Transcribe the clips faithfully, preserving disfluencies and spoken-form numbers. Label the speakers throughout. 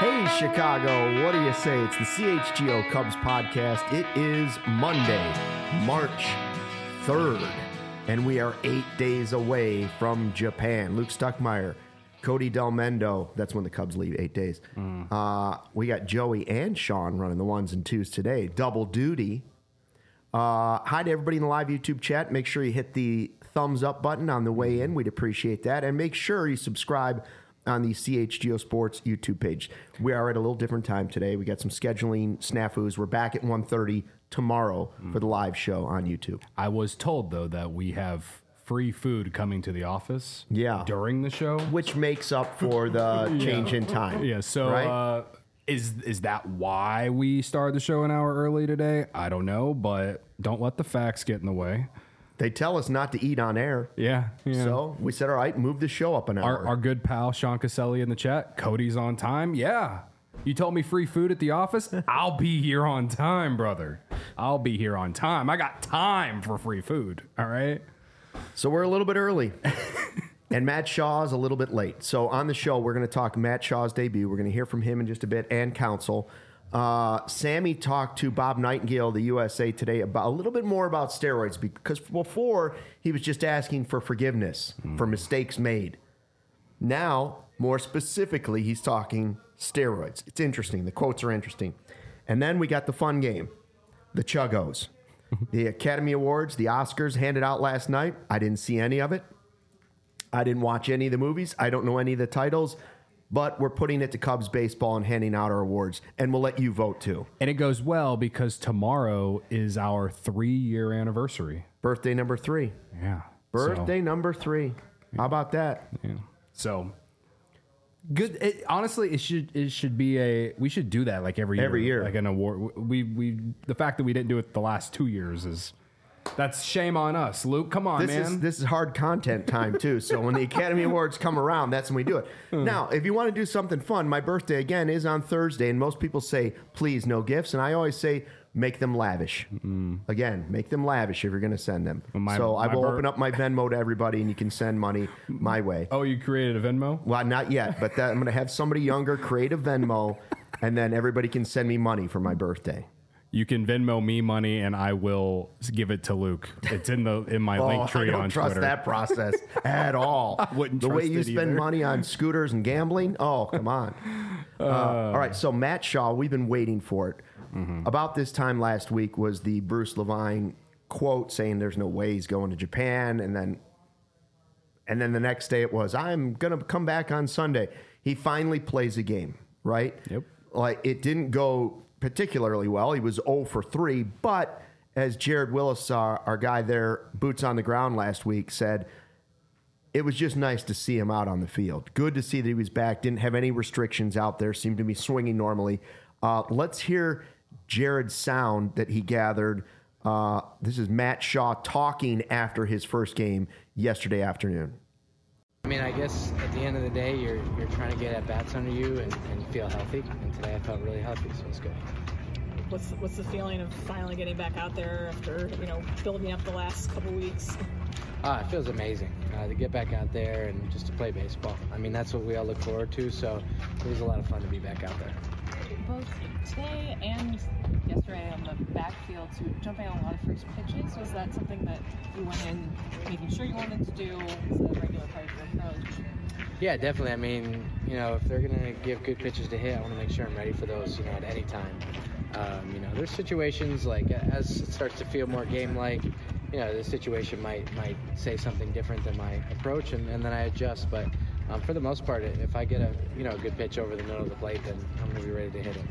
Speaker 1: Hey, Chicago, what do you say? It's the C H G O Cubs podcast. It is Monday, March third, and we are eight days away from Japan. Luke Stuckmeyer, Cody Delmendo, that's when the Cubs leave, eight days. Mm. Uh, we got Joey and Sean running the ones and twos today. Double duty. Uh, hi to everybody in the live YouTube chat. Make sure you hit the thumbs up button on the way in. We'd appreciate that. And make sure you subscribe on the C H G O Sports YouTube page. We are at a little different time today. We got some scheduling snafus. We're back at one thirty tomorrow mm. for the live show on YouTube.
Speaker 2: I was told, though, that we have free food coming to the office
Speaker 1: yeah.
Speaker 2: during the show.
Speaker 1: Which makes up for the yeah. change in time.
Speaker 2: Yeah, so
Speaker 1: right?
Speaker 2: uh, is is that why we started the show an hour early today? I don't know, but don't let the facts get in the way.
Speaker 1: They tell us not to eat on air.
Speaker 2: Yeah, yeah.
Speaker 1: So we said, all right, move the show up an hour.
Speaker 2: Our, our good pal, Sean Caselli in the chat. Cody's on time. Yeah. You told me free food at the office? I'll be here on time, brother. I'll be here on time. I got time for free food. All right?
Speaker 1: So we're a little bit early. And Matt Shaw is a little bit late. So on the show, we're going to talk Matt Shaw's debut. We're going to hear from him in just a bit and Counsell. Uh, Sammy talked to Bob Nightingale of the U S A Today about a little bit more about steroids, because before he was just asking for forgiveness mm. for mistakes made. Now, more specifically, he's talking steroids. It's interesting. The quotes are interesting. And then we got the fun game, the Chuggos. The Academy Awards, the Oscars handed out last night. I didn't see any of it. I didn't watch any of the movies. I don't know any of the titles. But we're putting it to Cubs baseball and handing out our awards, and we'll let you vote too.
Speaker 2: And it goes well because tomorrow is our three-year anniversary.
Speaker 1: Birthday number three.
Speaker 2: Yeah.
Speaker 1: Birthday so, number three.
Speaker 2: Yeah.
Speaker 1: How about that?
Speaker 2: Yeah. So good. It, honestly, it should it should be a we should do that like every year.
Speaker 1: Every year,
Speaker 2: like an award. We we the fact that we didn't do it the last two years is. That's shame on us, Luke. Come on,
Speaker 1: this
Speaker 2: man.
Speaker 1: Is, this is hard content time, too. So when the Academy Awards come around, that's when we do it. Now, if you want to do something fun, my birthday, again, is on Thursday. And most people say, please, no gifts. And I always say, make them lavish. Mm. Again, make them lavish if you're going to send them. Well, my, so I will bir- open up my Venmo to everybody, and you can send money my way.
Speaker 2: Oh, you created a Venmo?
Speaker 1: Well, not yet. But that, I'm going to have somebody younger create a Venmo, and then everybody can send me money for my birthday.
Speaker 2: You can Venmo me money, and I will give it to Luke. It's in the in my
Speaker 1: oh,
Speaker 2: link tree on Twitter.
Speaker 1: I don't trust that process at all.
Speaker 2: I wouldn't
Speaker 1: the
Speaker 2: trust
Speaker 1: way you
Speaker 2: it
Speaker 1: spend
Speaker 2: either.
Speaker 1: money on scooters and gambling. Oh, come on. Uh, uh, all right, so Matt Shaw, we've been waiting for it. Mm-hmm. About this time last week was the Bruce Levine quote saying there's no way he's going to Japan, and then and then the next day it was, I'm going to come back on Sunday. He finally plays a game, right?
Speaker 2: Yep.
Speaker 1: Like, it didn't go particularly well. He was zero for three, but as Jared Willis, our, our guy there, boots on the ground last week, said, it was just nice to see him out on the field. Good to see that he was back. Didn't have any restrictions out there. Seemed to be swinging normally. Uh, let's hear Jared's sound that he gathered. Uh, this is Matt Shaw talking after his first game yesterday afternoon.
Speaker 3: I mean, I guess at the end of the day, you're you're trying to get at bats under you and, and feel healthy. And today I felt really healthy, so it's good.
Speaker 4: What's the, what's the feeling of finally getting back out there after, you know, building up the last couple weeks?
Speaker 3: Ah, it feels amazing uh, to get back out there and just to play baseball. I mean, that's what we all look forward to, so it was a lot of fun to be back out there.
Speaker 5: Both today and yesterday on the backfield, to jumping on a lot of first pitches, was that something that you went in making sure you wanted to do as a regular part of your approach?
Speaker 3: Yeah, definitely. I mean, you know, if they're going to give good pitches to hit, I want to make sure I'm ready for those, you know, at any time. Um, you know, there's situations like as it starts to feel more game-like, you know, the situation might might say something different than my approach, and, and then I adjust. But um, for the most part, if I get a you know a good pitch over the middle of the plate, then I'm going to be ready to hit it.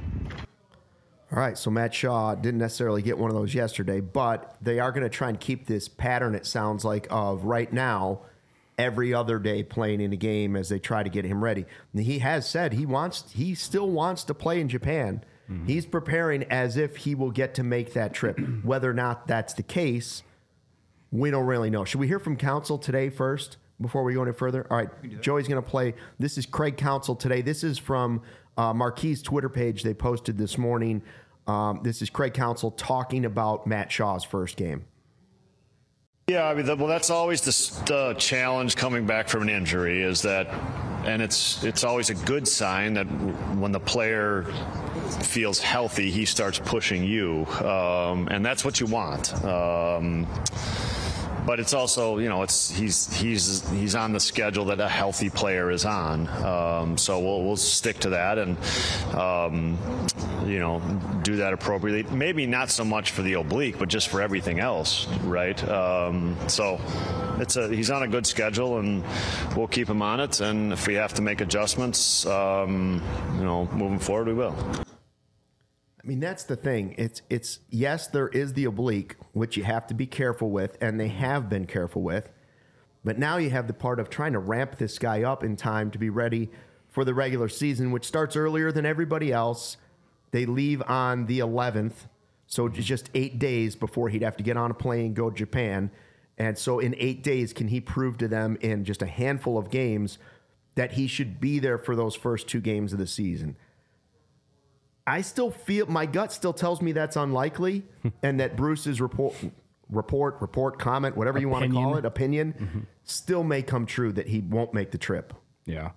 Speaker 1: All right, so Matt Shaw didn't necessarily get one of those yesterday, but they are going to try and keep this pattern, it sounds like, of right now, every other day playing in a game as they try to get him ready. And he has said he wants, he still wants to play in Japan. Mm-hmm. He's preparing as if he will get to make that trip. Whether or not that's the case, we don't really know. Should we hear from Counsell today first before we go any further? All right, Joey's going to play. This is Craig Counsell today. This is from uh, Marquis' Twitter page they posted this morning. Um, this is Craig Counsell talking about Matt Shaw's first game.
Speaker 6: Yeah, I mean, the, well, that's always the, the challenge coming back from an injury is that and it's it's always a good sign that when the player feels healthy, he starts pushing you, um, and that's what you want. Um, But it's also, you know, it's he's he's he's on the schedule that a healthy player is on. Um, so we'll we'll stick to that and, um, you know, do that appropriately. Maybe not so much for the oblique, but just for everything else, right? Um, so it's a he's on a good schedule, and we'll keep him on it. And if we have to make adjustments, um, you know, moving forward, we will.
Speaker 1: I mean, that's the thing. It's, it's yes, there is the oblique, which you have to be careful with, and they have been careful with. But now you have the part of trying to ramp this guy up in time to be ready for the regular season, which starts earlier than everybody else. They leave on the eleventh, so it's just eight days before he'd have to get on a plane and go to Japan. And so in eight days, can he prove to them in just a handful of games that he should be there for those first two games of the season? I still feel, my gut still tells me that's unlikely, and that Bruce's report, report, report, comment, whatever you
Speaker 2: Opinion.
Speaker 1: want to call it, opinion, mm-hmm. still may come true that he won't make the trip.
Speaker 2: Yeah.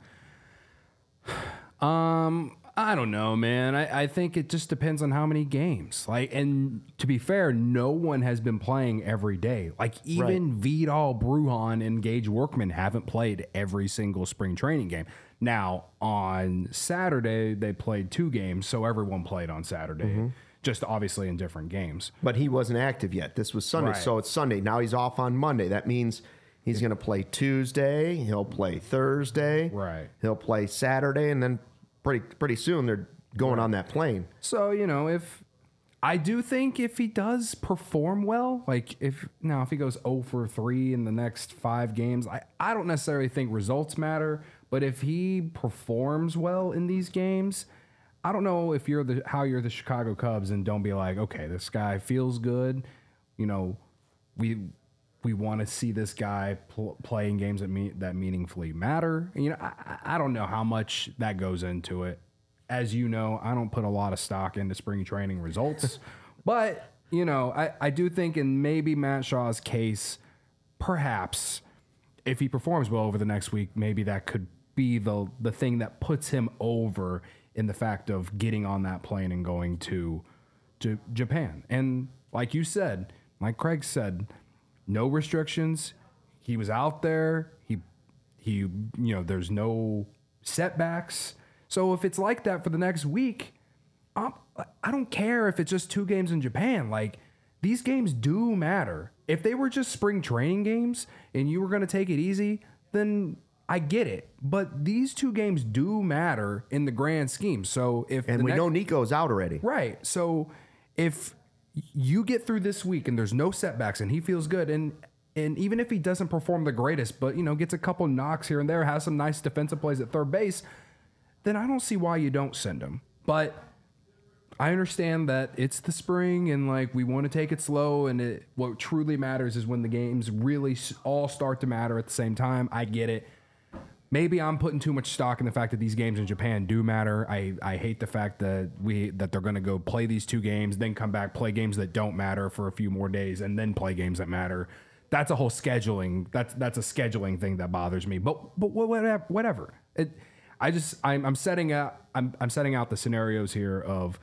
Speaker 2: Um, I don't know, man. I, I think it just depends on how many games. Like, and to be fair, no one has been playing every day. Like, even right. Vidal, Bruhan, and Gage Workman haven't played every single spring training game. Now, on Saturday, they played two games, so everyone played on Saturday, mm-hmm. just obviously in different games.
Speaker 1: But he wasn't active yet. This was Sunday,
Speaker 2: right.
Speaker 1: so it's Sunday. Now he's off on Monday. That means he's going to play Tuesday, he'll play Thursday,
Speaker 2: right?
Speaker 1: He'll play Saturday, and then pretty pretty soon they're going right. on that plane.
Speaker 2: So, you know, if I do think if he does perform well, like if now if he goes zero for three in the next five games, I, I don't necessarily think results matter. But if he performs well in these games, I don't know if you're the how you're the Chicago Cubs and don't be like, okay, this guy feels good. You know, we we want to see this guy pl- playing games that me- that meaningfully matter. And, you know, I, I don't know how much that goes into it. As you know, I don't put a lot of stock into spring training results. But, you know, I, I do think in maybe Matt Shaw's case, perhaps if he performs well over the next week, maybe that could be the the thing that puts him over in the fact of getting on that plane and going to to Japan. And like you said, like Craig said, no restrictions. He was out there. He he you know, there's no setbacks. So if it's like that for the next week, I'm, I don't care if it's just two games in Japan. Like, these games do matter. If they were just spring training games and you were going to take it easy, then I get it. But these two games do matter in the grand scheme. So if
Speaker 1: and we next, know Nico's out already.
Speaker 2: Right. So if you get through this week and there's no setbacks and he feels good, and and even if he doesn't perform the greatest, but, you know, gets a couple knocks here and there, has some nice defensive plays at third base, then I don't see why you don't send him. But I understand that it's the spring and, like, we want to take it slow, and it, what truly matters is when the games really all start to matter at the same time. I get it. Maybe I'm putting too much stock in the fact that these games in Japan do matter. I, I hate the fact that we that they're going to go play these two games, then come back, play games that don't matter for a few more days, and then play games that matter. That's a whole scheduling. That's that's a scheduling thing that bothers me. But but whatever. Whatever. It, I just I'm, I'm setting out I'm I'm setting out the scenarios here of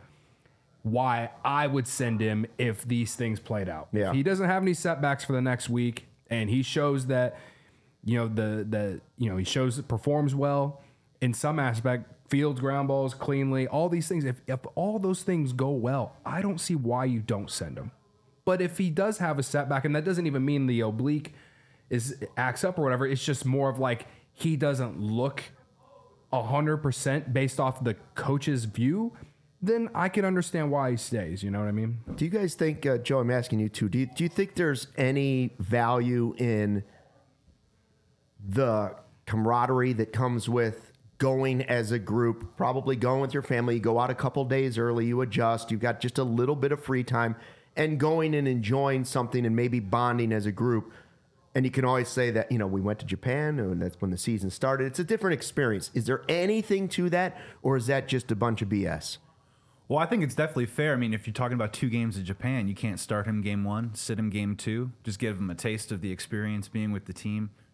Speaker 2: why I would send him if these things played out.
Speaker 1: Yeah.
Speaker 2: If he doesn't have any setbacks for the next week, and he shows that, you know, the the you know, he shows it performs well in some aspect, fields ground balls cleanly, all these things. If if all those things go well, I don't see why you don't send him. But if he does have a setback, and that doesn't even mean the oblique is acts up or whatever, it's just more of like he doesn't look a hundred percent based off the coach's view, then I can understand why he stays. You know what I mean?
Speaker 1: Do you guys think, uh, Joe, I'm asking you too, do you, do you think there's any value in the camaraderie that comes with going as a group, probably going with your family? You go out a couple days early, you adjust, you've got just a little bit of free time, and going and enjoying something and maybe bonding as a group. And you can always say that, you know, we went to Japan and that's when the season started. It's a different experience. Is there anything to that, or is that just a bunch of B S?
Speaker 7: Well, I think it's definitely fair. I mean, if you're talking about two games in Japan, you can't start him game one, sit him game two, just give him a taste of the experience being with the team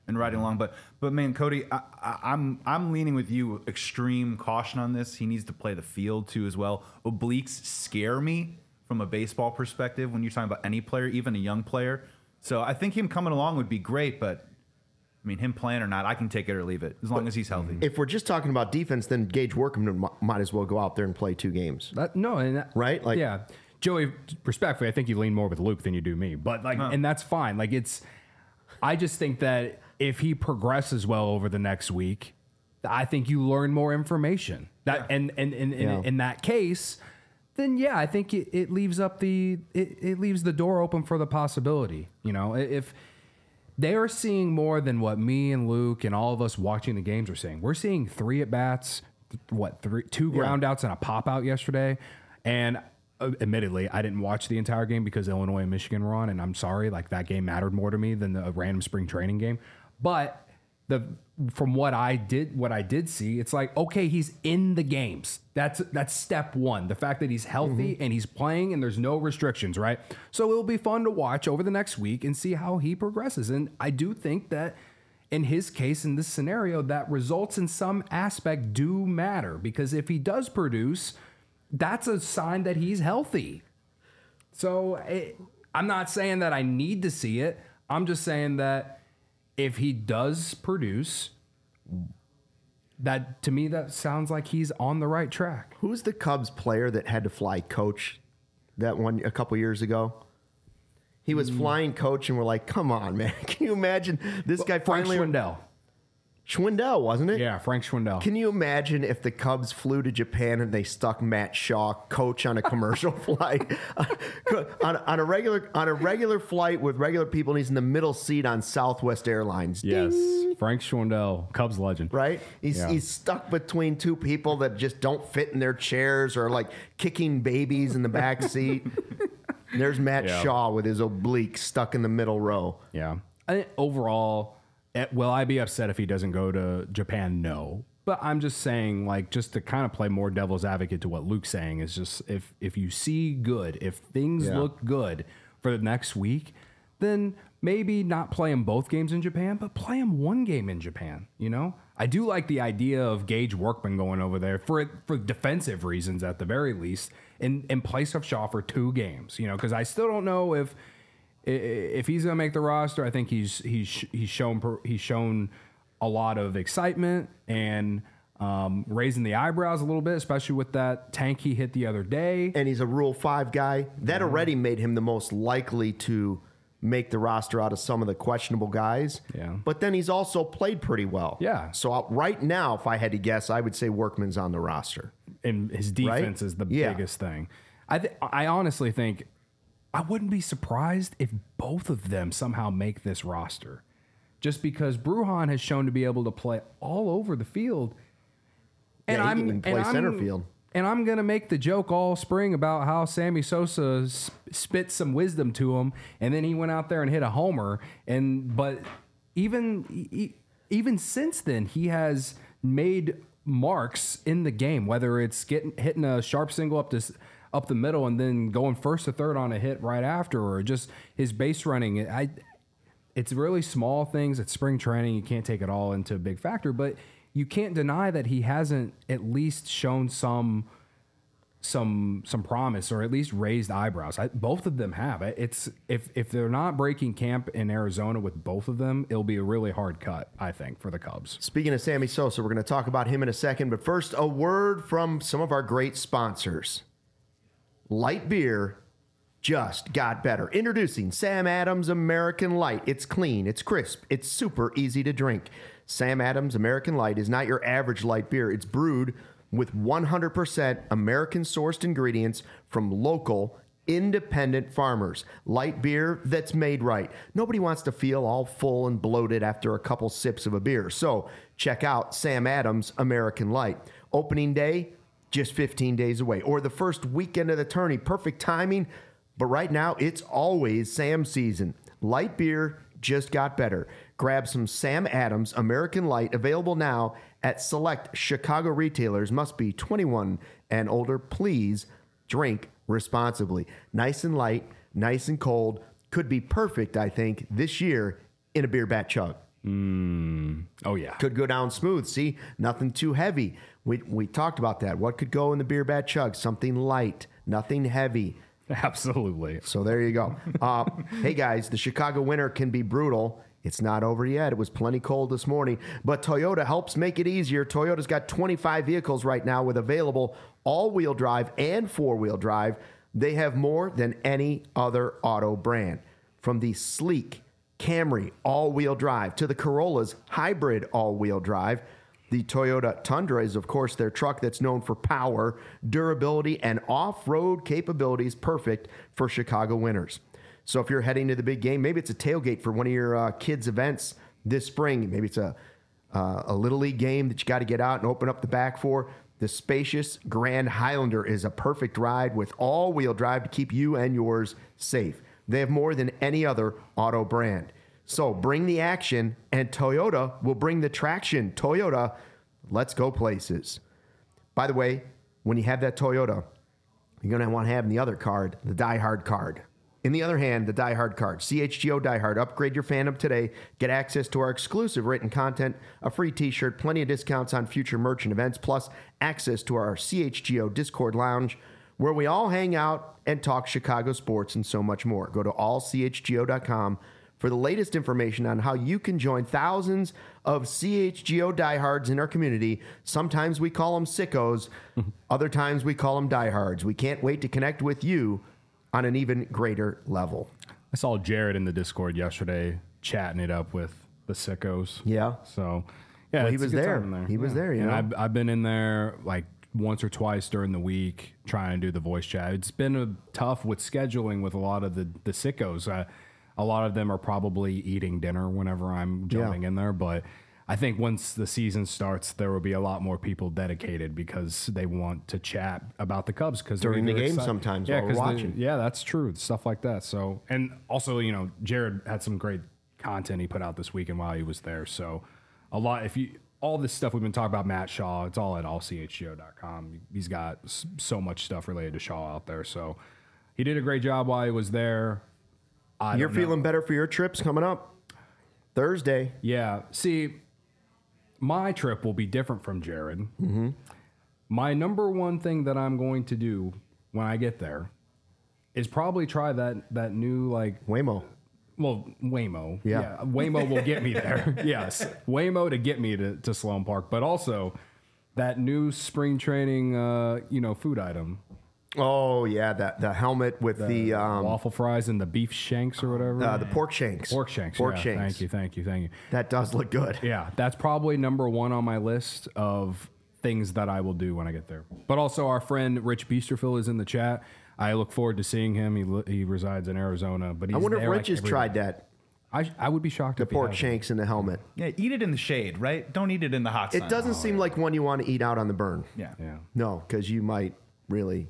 Speaker 7: and riding along. But but man, Cody, I, I, I'm I'm leaning with you. Extreme caution on this. He needs to play the field too as well. Obliques scare me from a baseball perspective when you're talking about any player, even a young player. So I think him coming along would be great, but I mean, him playing or not, I can take it or leave it as long but as he's healthy.
Speaker 1: If we're just talking about defense, then Gage Workman might as well go out there and play two games.
Speaker 2: That, no, and that,
Speaker 1: right? Like,
Speaker 2: yeah, Joey. Respectfully, I think you lean more with Luke than you do me, but like, huh. and that's fine. Like, it's. I just think that if he progresses well over the next week, I think you learn more information. That yeah. and and, and, and yeah. in that case, then yeah, I think it, it leaves up the it, it leaves the door open for the possibility. You know, if. They are seeing more than what me and Luke and all of us watching the games are seeing. We're seeing three at bats, what three, two ground outs and a pop out yesterday. And uh, admittedly, I didn't watch the entire game because Illinois and Michigan were on, and I'm sorry, like that game mattered more to me than the random spring training game. But the from what I did, what I did see, it's like okay, he's in the games. That's that's step one. The fact that he's healthy mm-hmm. and he's playing and there's no restrictions, right? So it'll be fun to watch over the next week and see how he progresses. And I do think that in his case, in this scenario, that results in some aspect do matter because if he does produce, that's a sign that he's healthy. So it, I'm not saying that I need to see it. I'm just saying that if he does produce, that to me, that sounds like he's on the right track.
Speaker 1: Who's the Cubs player that had to fly coach that one a couple years ago? He was mm. flying coach, and we're like, come on, man. Can you imagine this well, guy
Speaker 2: Frank
Speaker 1: finally...
Speaker 2: Schwindel.
Speaker 1: Schwindel, wasn't it?
Speaker 2: Yeah, Frank Schwindel.
Speaker 1: Can you imagine if the Cubs flew to Japan and they stuck Matt Shaw, coach, on a commercial flight on, on a regular on a regular flight with regular people, and he's in the middle seat on Southwest Airlines?
Speaker 2: Yes,
Speaker 1: Ding.
Speaker 2: Frank Schwindel, Cubs legend.
Speaker 1: Right? He's
Speaker 2: yeah.
Speaker 1: he's stuck between two people that just don't fit in their chairs or like kicking babies in the back seat. There's Matt yeah. Shaw with his oblique stuck in the middle row.
Speaker 2: Yeah. I think overall. Will I be upset if he doesn't go to Japan? No. But I'm just saying, like, just to kind of play more devil's advocate to what Luke's saying is just if if you see good, if things yeah. look good for the next week, then maybe not play him both games in Japan, but play him one game in Japan, you know? I do like the idea of Gage Workman going over there for for defensive reasons at the very least in, in place of Shaw for two games, you know, because I still don't know if If he's going to make the roster. I think he's he's he's shown he's shown a lot of excitement and um, raising the eyebrows a little bit, especially with that tank he hit the other day.
Speaker 1: And he's a Rule Five guy. That mm-hmm. already made him the most likely to make the roster out of some of the questionable guys.
Speaker 2: Yeah.
Speaker 1: But then he's also played pretty well.
Speaker 2: Yeah.
Speaker 1: So uh, right now, if I had to guess, I would say Workman's on the roster.
Speaker 2: And his defense
Speaker 1: right?
Speaker 2: is the
Speaker 1: yeah.
Speaker 2: biggest thing. I th- I honestly think. I wouldn't be surprised if both of them somehow make this roster. Just because Brujan has shown to be able to play all over the field. And
Speaker 1: yeah, he
Speaker 2: I'm
Speaker 1: can even play
Speaker 2: and
Speaker 1: center
Speaker 2: I'm,
Speaker 1: field.
Speaker 2: And I'm going to make the joke all spring about how Sammy Sosa spit some wisdom to him, and then he went out there and hit a homer. And but even even since then, he has made marks in the game, whether it's getting hitting a sharp single up to up the middle and then going first to third on a hit right after, or just his base running. I, it's really small things. It's spring training. You can't take it all into a big factor, but you can't deny that he hasn't at least shown some some some promise, or at least raised eyebrows. I, both of them have. It's if if they're not breaking camp in Arizona with both of them, it'll be a really hard cut, I think, for the Cubs.
Speaker 1: Speaking of Sammy Sosa, we're going to talk about him in a second, but first, a word from some of our great sponsors. Light beer just got better. Introducing Sam Adams American Light. It's clean, it's crisp, it's super easy to drink. Sam Adams American Light is not your average light beer. It's brewed with one hundred percent American-sourced ingredients from local, independent farmers. Light beer that's made right. Nobody wants to feel all full and bloated after a couple sips of a beer. So check out Sam Adams American Light. Opening day, just fifteen days away, or the first weekend of the tourney. Perfect timing, but right now it's always Sam season. Light beer just got better. Grab some Sam Adams American Light, available now at select Chicago retailers. Must be twenty-one and older. Please drink responsibly. Nice and light, nice and cold. Could be perfect, I think, this year in a beer bat chug.
Speaker 2: Mm. Oh, yeah.
Speaker 1: Could go down smooth. See, nothing too heavy. We, we talked about that. What could go in the beer bat chug? Something light, nothing heavy.
Speaker 2: Absolutely.
Speaker 1: So there you go. Uh, hey, guys, the Chicago winter can be brutal. It's not over yet. It was plenty cold this morning, but Toyota helps make it easier. Toyota's got twenty-five vehicles right now with available all-wheel drive and four-wheel drive. They have more than any other auto brand. From the sleek Camry all-wheel drive to the Corolla's hybrid all-wheel drive, the Toyota Tundra is, of course, their truck that's known for power, durability, and off-road capabilities, perfect for Chicago winters. So if you're heading to the big game, maybe it's a tailgate for one of your uh, kids' events this spring. Maybe it's a uh, a Little League game that you got to get out and open up the back for. The spacious Grand Highlander is a perfect ride with all-wheel drive to keep you and yours safe. They have more than any other auto brand. So bring the action, and Toyota will bring the traction. Toyota, let's go places. By the way, when you have that Toyota, you're going to want to have in the other card, the Die Hard card. In the other hand, the Die Hard card. C H G O Die Hard. Upgrade your fandom today. Get access to our exclusive written content, a free t-shirt, plenty of discounts on future merch and events, plus access to our C H G O Discord lounge, where we all hang out and talk Chicago sports and so much more. Go to all c h g o dot com for the latest information on how you can join thousands of C H G O diehards in our community. Sometimes we call them sickos. Other times we call them diehards. We can't wait to connect with you on an even greater level.
Speaker 2: I saw Jared in the Discord yesterday chatting it up with the sickos.
Speaker 1: Yeah.
Speaker 2: So, yeah,
Speaker 1: Well, he
Speaker 2: it's a
Speaker 1: was
Speaker 2: good
Speaker 1: there.
Speaker 2: time in
Speaker 1: He was there, you
Speaker 2: And
Speaker 1: know.
Speaker 2: I've, I've been in there like once or twice during the week trying to do the voice chat. It's been a, tough with scheduling with a lot of the, the sickos. Uh, a lot of them are probably eating dinner whenever I'm jumping
Speaker 1: Yeah.
Speaker 2: in there, but I think once the season starts, there will be a lot more people dedicated because they want to chat about the Cubs because
Speaker 1: During the game sometimes while we're
Speaker 2: 'cause they-
Speaker 1: watching.
Speaker 2: yeah, that's true. Stuff like that. So, and also, you know, Jared had some great content he put out this weekend while he was there. So, a lot, if you, all this stuff we've been talking about, Matt Shaw, it's all at all c h g o dot com. He's got s- so much stuff related to Shaw out there. So, he did a great job while he was there. I
Speaker 1: You're
Speaker 2: don't know.
Speaker 1: feeling better for your trips coming up? Thursday.
Speaker 2: Yeah. See, my trip will be different from Jared. Mm-hmm. My number one thing that I'm going to do when I get there is probably try that that new like
Speaker 1: Waymo.
Speaker 2: well Waymo.
Speaker 1: Yeah.
Speaker 2: Waymo will get me there. Yes, Waymo to get me to, to Sloan Park, but also that new spring training uh, you know food item.
Speaker 1: Oh, yeah, that the helmet with the, um,
Speaker 2: waffle fries and the beef shanks or whatever.
Speaker 1: uh, the pork shanks.
Speaker 2: pork shanks.
Speaker 1: Pork
Speaker 2: yeah,
Speaker 1: shanks.
Speaker 2: Thank you, thank you, thank you.
Speaker 1: That does look good.
Speaker 2: Yeah, that's probably number one on my list of things that I will do when I get there. But also, our friend Rich Beasterfield is in the chat. I look forward to seeing him. He li- he resides in Arizona, but he's
Speaker 1: I wonder if
Speaker 2: there,
Speaker 1: Rich
Speaker 2: like,
Speaker 1: has
Speaker 2: every
Speaker 1: tried
Speaker 2: day.
Speaker 1: that.
Speaker 2: I I would be shocked
Speaker 1: The
Speaker 2: if he
Speaker 1: pork
Speaker 2: hasn't.
Speaker 1: shanks in the helmet.
Speaker 7: Yeah, eat it in the shade, right? Don't eat it in the hot sun.
Speaker 1: It doesn't seem like one you want to eat out on the burn.
Speaker 7: Yeah.
Speaker 2: Yeah,
Speaker 1: No, because you might really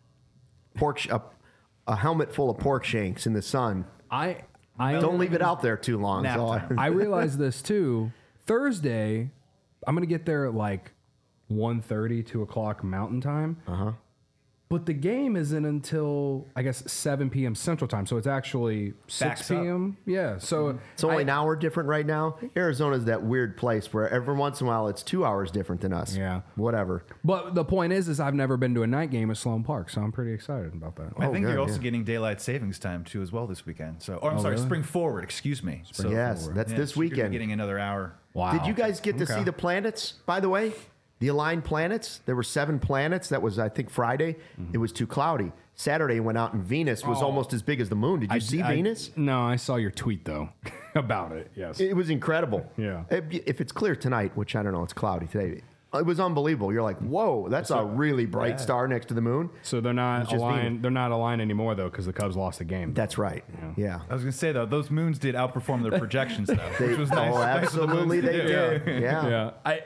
Speaker 1: pork sh- a, a helmet full of pork shanks in the sun.
Speaker 2: I I
Speaker 1: Don't leave it out there too long.
Speaker 7: Nap
Speaker 1: So I-
Speaker 7: time.
Speaker 2: I realized this too. Thursday, I'm gonna get there at like one thirty, two o'clock Mountain Time. Uh huh. But the game isn't until I guess seven p.m. Central Time, so it's actually six
Speaker 7: Backs up.
Speaker 2: p.m. Yeah, so
Speaker 1: It's only
Speaker 2: I-
Speaker 1: an hour different right now. Arizona's that weird place where every once in a while it's two hours different than us.
Speaker 2: Yeah.
Speaker 1: Whatever.
Speaker 2: But the point is, is I've never been to a night game at Sloan Park, so I'm pretty excited about that.
Speaker 7: I
Speaker 1: Oh,
Speaker 7: think
Speaker 1: good,
Speaker 7: you're also
Speaker 1: yeah.
Speaker 7: getting daylight savings time too as well this weekend. So, or I'm sorry,
Speaker 2: really?
Speaker 7: spring forward. Excuse me. So,
Speaker 1: yes, that's
Speaker 7: yeah,
Speaker 1: this
Speaker 7: so you're gonna be
Speaker 1: weekend.
Speaker 7: getting another hour.
Speaker 2: Wow.
Speaker 1: Did you guys get to
Speaker 2: Okay.
Speaker 1: see the planets, by the way? The aligned planets? There were seven planets. That was, I think, Friday. It was too cloudy. Saturday went out and Venus was
Speaker 2: Oh.
Speaker 1: almost as big as the moon. Did you
Speaker 2: I-
Speaker 1: see
Speaker 2: I-
Speaker 1: Venus?
Speaker 2: No, I saw your tweet though about it. Yes.
Speaker 1: It was incredible.
Speaker 2: Yeah.
Speaker 1: If, if it's clear tonight, which I don't know, it's cloudy today. It was unbelievable. You're like, whoa, that's a really bright star next to the moon.
Speaker 2: so they're not
Speaker 1: It's just Venus.
Speaker 2: aligned. They're not aligned anymore though because the Cubs lost the game.
Speaker 1: That's right. Yeah.
Speaker 7: I was gonna say though, those moons did outperform their projections though,
Speaker 1: They,
Speaker 7: which was nice.
Speaker 1: Oh,
Speaker 7: Nice of the moons
Speaker 1: absolutely
Speaker 7: to
Speaker 1: they
Speaker 7: do.
Speaker 1: did. Yeah.
Speaker 2: yeah. I,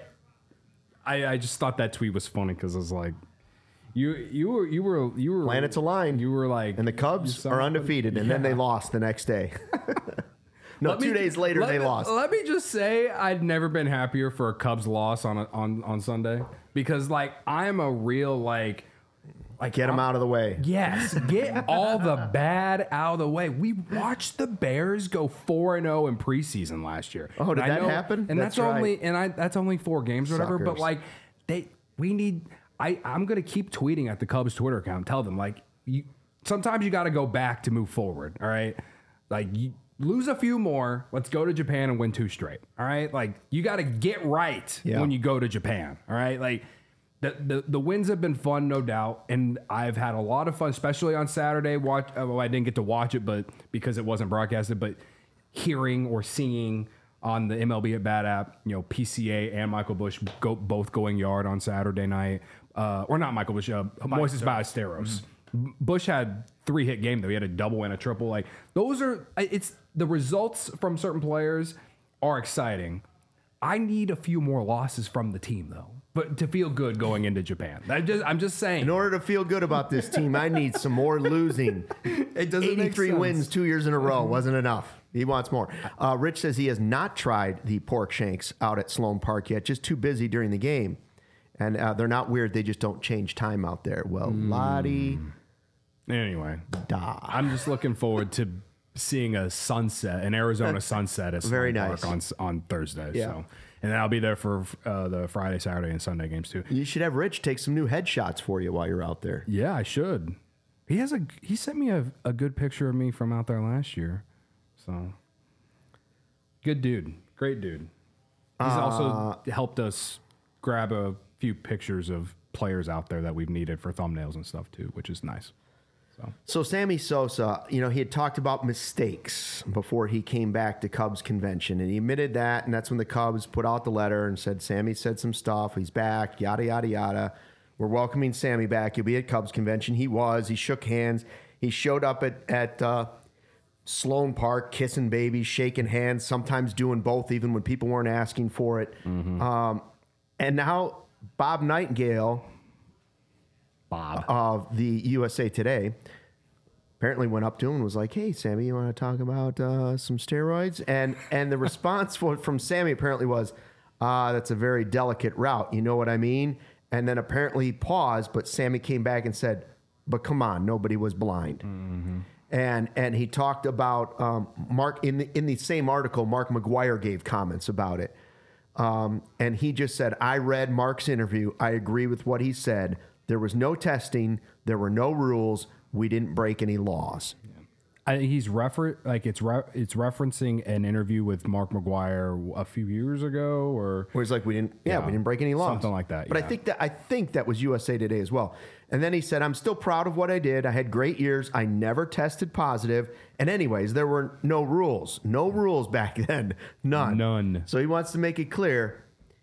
Speaker 2: I I just thought that tweet was funny because I was like, you you were you were you were
Speaker 1: Planets aligned.
Speaker 2: You were like,
Speaker 1: And the
Speaker 2: you
Speaker 1: Cubs
Speaker 2: saw
Speaker 1: are
Speaker 2: it?
Speaker 1: undefeated, and then they
Speaker 2: Yeah.
Speaker 1: lost the next day. no,
Speaker 2: Let
Speaker 1: two
Speaker 2: me-
Speaker 1: days later
Speaker 2: let
Speaker 1: they
Speaker 2: me-
Speaker 1: lost.
Speaker 2: Let me just say, I'd never been happier for a Cubs loss on a, on on Sunday because like I'm a real like Like
Speaker 1: Get them
Speaker 2: I'm-
Speaker 1: out of the way.
Speaker 2: Yes, get all the bad out of the way. We watched the Bears go four and zero in preseason last year.
Speaker 1: Oh, did
Speaker 2: And I
Speaker 1: that happen?
Speaker 2: And that's,
Speaker 1: That's right.
Speaker 2: only and I that's only four games or whatever. But
Speaker 1: Suckers.
Speaker 2: like they, we need. I I'm gonna keep tweeting at the Cubs Twitter account. Tell them like you. Sometimes you got to go back to move forward. All right, like you lose a few more. Let's go to Japan and win two straight. All right, like you got to get right
Speaker 1: Yeah.
Speaker 2: when you go to Japan. All right, like. The, the the wins have been fun, no doubt, and I've had a lot of fun, especially on Saturday. Watch, uh, well, I didn't get to watch it, but because it wasn't broadcasted, but hearing or seeing on the M L B at Bat app, you know, P C A and Michael Busch go both going yard on Saturday night, uh, or not Michael Busch, uh, Moises Ballesteros.
Speaker 1: Mm-hmm.
Speaker 2: Busch had three hit game though. He had a double and a triple. Like those are, it's the results from certain players are exciting. I need a few more losses from the team though. But to feel good going into Japan, I just, I'm just saying.
Speaker 1: In order to feel good about this team, I need some more losing.
Speaker 2: It doesn't make
Speaker 1: eighty-three
Speaker 2: sense.
Speaker 1: wins two years in a row wasn't enough. He wants more. Uh, Rich says he has not tried the pork shanks out at Sloan Park yet, just too busy during the game. And uh, they're not weird. They just don't change time out there. Well, Lottie
Speaker 2: Anyway,
Speaker 1: da.
Speaker 2: I'm just looking forward to seeing a sunset, an Arizona sunset at
Speaker 1: Very
Speaker 2: Sloan
Speaker 1: nice.
Speaker 2: Park on on Thursday.
Speaker 1: Yeah.
Speaker 2: So, and then I'll be there for uh, the Friday, Saturday, and Sunday games too.
Speaker 1: You should have Rich take some new headshots for you while you're out there.
Speaker 2: Yeah, I should. He has a he sent me a, a good picture of me from out there last year. So good dude. Great dude. He's
Speaker 1: Uh,
Speaker 2: also helped us grab a few pictures of players out there that we've needed for thumbnails and stuff too, which is nice. So
Speaker 1: So Sammy Sosa, you know, he had talked about mistakes before he came back to Cubs convention, and he admitted that, and that's when the Cubs put out the letter and said, Sammy said some stuff, he's back, yada, yada, yada. We're welcoming Sammy back. He'll be at Cubs convention. He was. He shook hands. He showed up at, at uh, Sloan Park, kissing babies, shaking hands, sometimes doing both, even when people weren't asking for it. Um, and now Bob Nightingale
Speaker 2: Bob.
Speaker 1: of the U S A Today apparently went up to him and was like, hey, Sammy, you want to talk about uh, some steroids? And and the response for, from Sammy apparently was, uh, that's a very delicate route. You know what I mean? And then apparently he paused, but Sammy came back and said, but come on, nobody was blind. And and he talked about um, Mark in the in the same article. Mark McGuire gave comments about it, um, and he just said, "I read Mark's interview. I agree with what he said. There was no testing. There were no rules. We didn't break any laws."
Speaker 2: I, he's refer like it's re- it's referencing an interview with Mark McGuire a few years ago, or
Speaker 1: Where he's like, "We didn't, yeah,
Speaker 2: Yeah,
Speaker 1: we didn't break any laws,
Speaker 2: something like that,
Speaker 1: But I
Speaker 2: yeah.
Speaker 1: think that I think that was U S A Today as well. And then he said, "I'm still proud of what I did. I had great years. I never tested positive. And anyways, there were no rules, no rules back then, none,
Speaker 2: None.
Speaker 1: So he wants to make it clear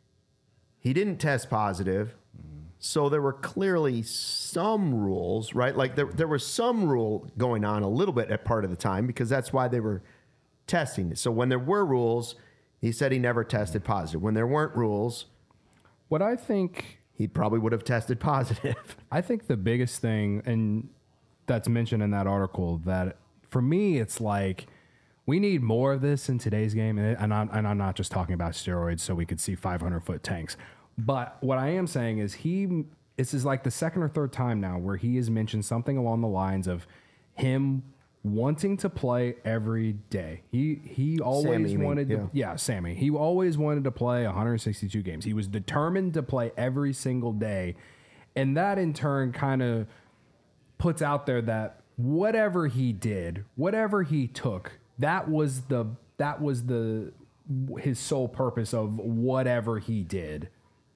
Speaker 1: he didn't test positive. So there were clearly some rules, right? Like there, there was some rule going on a little bit at part of the time because that's why they were testing it. So when there were rules, he said he never tested positive. When there weren't rules,
Speaker 2: what I think
Speaker 1: he probably would have tested positive.
Speaker 2: I think the biggest thing, and that's mentioned in that article, that for me, it's like we need more of this in today's game. And, and, I'm, and I'm not just talking about steroids so we could see five hundred foot tanks. But what I am saying is he, this is like the second or third time now where he has mentioned something along the lines of him wanting to play every day. He he always
Speaker 1: Sammy, you mean,
Speaker 2: wanted to,
Speaker 1: yeah.
Speaker 2: yeah, Sammy. He always wanted to play one hundred sixty-two games. He was determined to play every single day. And that in turn kind of puts out there that whatever he did, whatever he took, that was the that was the his sole purpose of whatever he did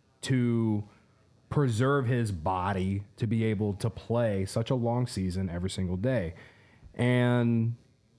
Speaker 2: to preserve his body to be able to play such a long season every single day. And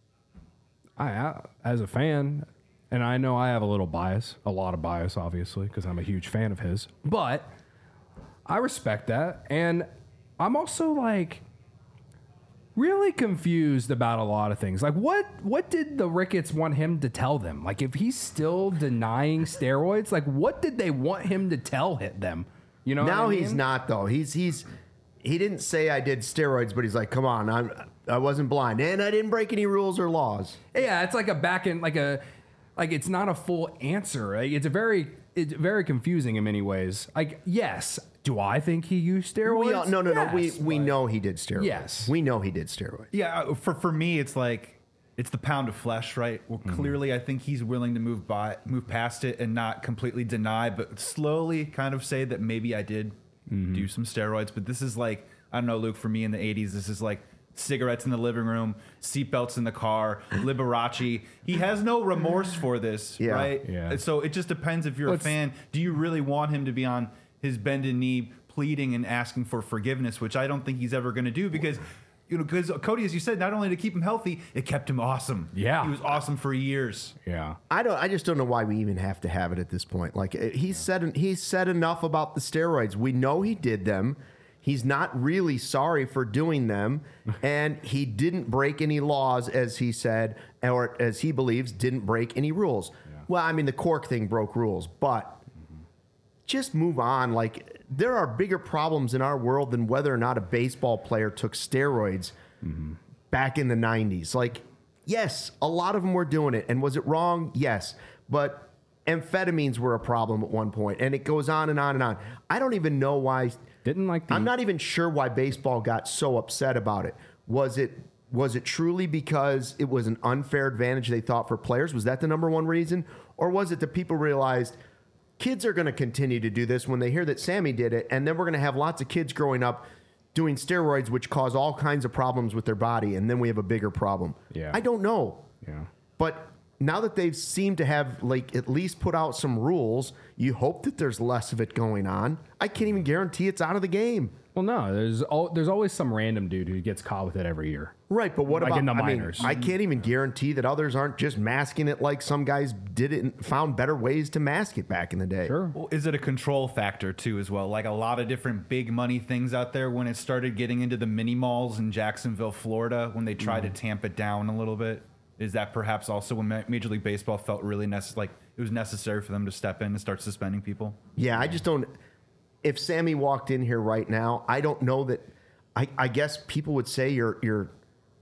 Speaker 2: I, I as a fan, and I know I have a little bias, a lot of bias, obviously, because I'm a huge fan of his, but I respect that. And I'm also like really confused about a lot of things. Like what what did the Ricketts want him to tell them? Like if he's still denying steroids, like what did they want him to tell hit them? You know,
Speaker 1: Now
Speaker 2: what I
Speaker 1: he's
Speaker 2: mean?
Speaker 1: not though. He's he's he didn't say I did steroids, but he's like, come on, I'm I wasn't blind and I didn't break any rules or laws.
Speaker 2: Yeah, it's like a back end, like a, like it's not a full answer. Like it's a very, it's very confusing in many ways. Like, yes, Do I think he used steroids?
Speaker 1: We all, no, no, no. We
Speaker 2: Yes,
Speaker 1: we
Speaker 2: but-
Speaker 1: know he did steroids.
Speaker 2: Yes.
Speaker 1: we know he did steroids.
Speaker 7: Yeah, uh, for for me, it's like it's the pound of flesh, right? Well, clearly, I think he's willing to move by, move past it, and not completely deny, but slowly kind of say that maybe I did do some steroids. But this is like, I don't know, Luke. For me in the eighties, this is like cigarettes in the living room, seatbelts in the car, Liberace. He has no remorse for this,
Speaker 1: Yeah.
Speaker 7: right?
Speaker 2: Yeah.
Speaker 7: So it just depends if you're
Speaker 2: Let's-
Speaker 7: a fan. Do you really want him to be on his bended knee, pleading and asking for forgiveness, which I don't think he's ever going to do because. You know, because Cody, as you said, not only to keep him healthy, it kept him awesome.
Speaker 2: Yeah.
Speaker 7: He was awesome for years.
Speaker 2: Yeah.
Speaker 1: I don't. I just don't know why we even have to have it at this point. Like uh, he said, he said enough about the steroids. We know he did them. He's not really sorry for doing them, and he didn't break any laws, as he said, or as he believes, didn't break any rules. Well, I mean, the cork thing broke rules, but just move on. Like there are bigger problems in our world than whether or not a baseball player took steroids back in the nineties. Like, yes, a lot of them were doing it. And was it wrong? Yes. But amphetamines were a problem at one point, and it goes on and on and on. I don't even know why.
Speaker 2: Didn't like the.
Speaker 1: I'm not even sure why baseball got so upset about it. Was it was it truly because it was an unfair advantage they thought for players? Was that the number one reason? Or was it that people realized kids are going to continue to do this when they hear that Sammy did it, and then we're going to have lots of kids growing up doing steroids, which cause all kinds of problems with their body, and then we have a bigger problem.
Speaker 2: Yeah.
Speaker 1: I don't know.
Speaker 2: Yeah.
Speaker 1: But now that they've seemed to have like at least put out some rules, you hope that there's less of it going on. I can't even guarantee it's out of the game.
Speaker 2: Well, no. There's al- there's always some random dude who gets caught with it every year.
Speaker 1: Right, but what
Speaker 2: Like
Speaker 1: about
Speaker 2: in the
Speaker 1: I mean,
Speaker 2: minors.
Speaker 1: I can't even guarantee that others aren't just masking it like some guys did it and found better ways to mask it back in the day.
Speaker 2: Sure.
Speaker 7: Well, is it a control factor too, as well? Like a lot of different big money things out there. When it started getting into the mini malls in Jacksonville, Florida, when they tried to tamp it down a little bit, is that perhaps also when Ma- Major League Baseball felt really necess- like it was necessary for them to step in and start suspending people?
Speaker 1: Yeah, I just don't. If Sammy walked in here right now, I don't know that. I, I guess people would say you're you're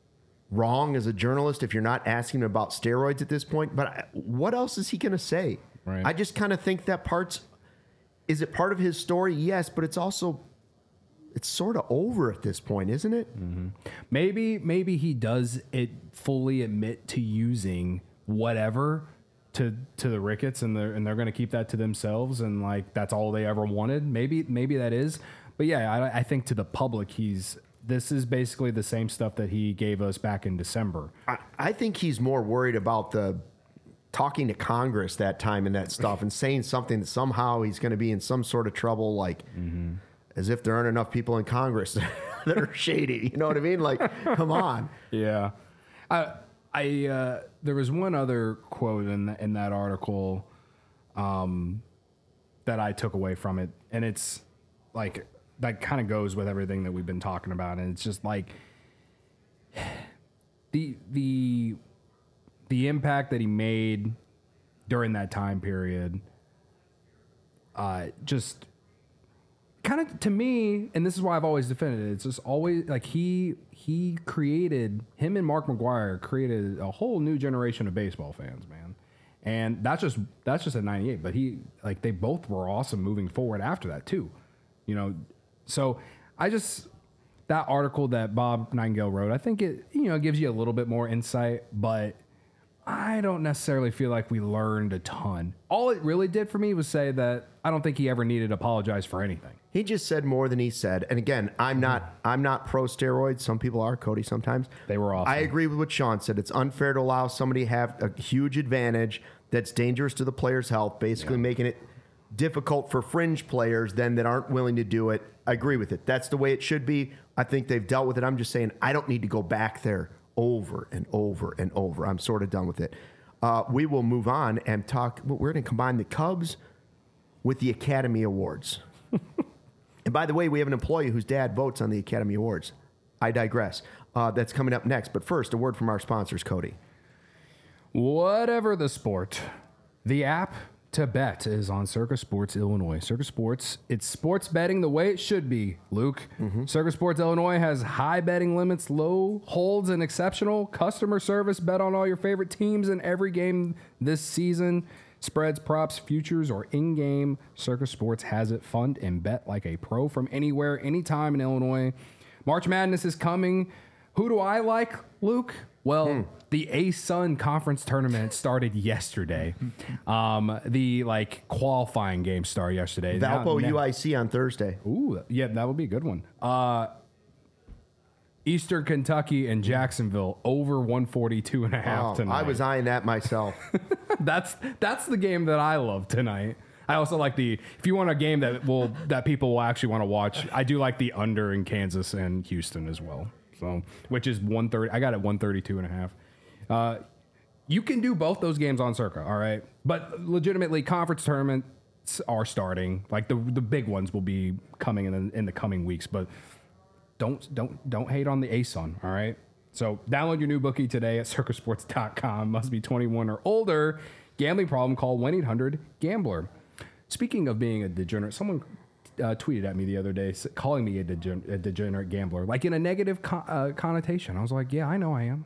Speaker 1: wrong as a journalist if you're not asking him about steroids at this point. But I, what else is he going to say?
Speaker 2: Right.
Speaker 1: I just kind of think that part's. Is it part of his story? Yes, but it's also. It's sort of over at this point, isn't it?
Speaker 2: Maybe maybe he does it fully admit to using whatever to to the Ricketts, and they're and they're going to keep that to themselves, and like that's all they ever wanted. Maybe maybe that is, but yeah, I, I think to the public, he's this is basically the same stuff that he gave us back in December.
Speaker 1: I, I think he's more worried about the talking to Congress that time and that stuff and saying something that somehow he's going to be in some sort of trouble, like as if there aren't enough people in Congress that are shady. You know what I mean? Like, come on.
Speaker 2: Yeah, I I uh, there was one other quote in in that article, um, that I took away from it, and it's like that kind of goes with everything that we've been talking about, and it's just like the the the impact that he made during that time period, uh, just. Kind of to me, and this is why I've always defended it. It's just always like he he created him and Mark McGwire created a whole new generation of baseball fans, man. And that's just that's just at ninety-eight. But he like they both were awesome moving forward after that too, you know. So I just that article that Bob Nightingale wrote, I think it you know gives you a little bit more insight, but I don't necessarily feel like we learned a ton. All it really did for me was say that I don't think he ever needed to apologize for anything.
Speaker 1: He just said more than he said. And again, I'm not I'm not pro steroids. Some people are, Cody, sometimes.
Speaker 2: They were awesome.
Speaker 1: I agree with what Sean said. It's unfair to allow somebody to have a huge advantage that's dangerous to the player's health, basically yeah. making it difficult for fringe players then that aren't willing to do it. I agree with it. That's the way it should be. I think they've dealt with it. I'm just saying I don't need to go back there over and over and over. I'm sort of done with it. Uh, we will move on and talk. We're going to combine the Cubs with the Academy Awards. And by the way, we have an employee whose dad votes on the Academy Awards. I digress. Uh, that's coming up next. But first, a word from our sponsors, Cody.
Speaker 2: Whatever the sport, the app to bet is on Circus Sports Illinois. Circus Sports, it's sports betting the way it should be, Luke. Mm-hmm. Circus Sports Illinois has high betting limits, low holds, and exceptional customer service. Bet on all your favorite teams in every game this season. Spreads, props, futures, or in-game, Circa Sports has it. Fund and bet like a pro from anywhere, anytime in Illinois. March Madness is coming. Who do I like, Luke? Well, hmm. the A-Sun Conference Tournament started yesterday. Um, the like qualifying game started yesterday.
Speaker 1: Valpo
Speaker 2: now,
Speaker 1: U I C on Thursday.
Speaker 2: Ooh, yeah, that would be a good one. Uh, Eastern Kentucky and Jacksonville over one forty-two and a half
Speaker 1: oh,
Speaker 2: tonight.
Speaker 1: I was eyeing that myself.
Speaker 2: that's that's the game that I love tonight. I also like the if you want a game that will that people will actually want to watch. I do like the under in Kansas and Houston as well. So which is one thirty. I got it one thirty-two and a half. Uh, you can do both those games on Circa, all right. But legitimately, conference tournaments are starting. Like the the big ones will be coming in the, in the coming weeks, but. Don't don't don't hate on the A S U N, all right? So download your new bookie today at circa sports dot com. Must be twenty-one or older. Gambling problem, call one eight hundred gambler. Speaking of being a degenerate, someone uh, tweeted at me the other day calling me a, degen- a degenerate gambler, like in a negative co- uh, connotation. I was like, yeah, I know I am.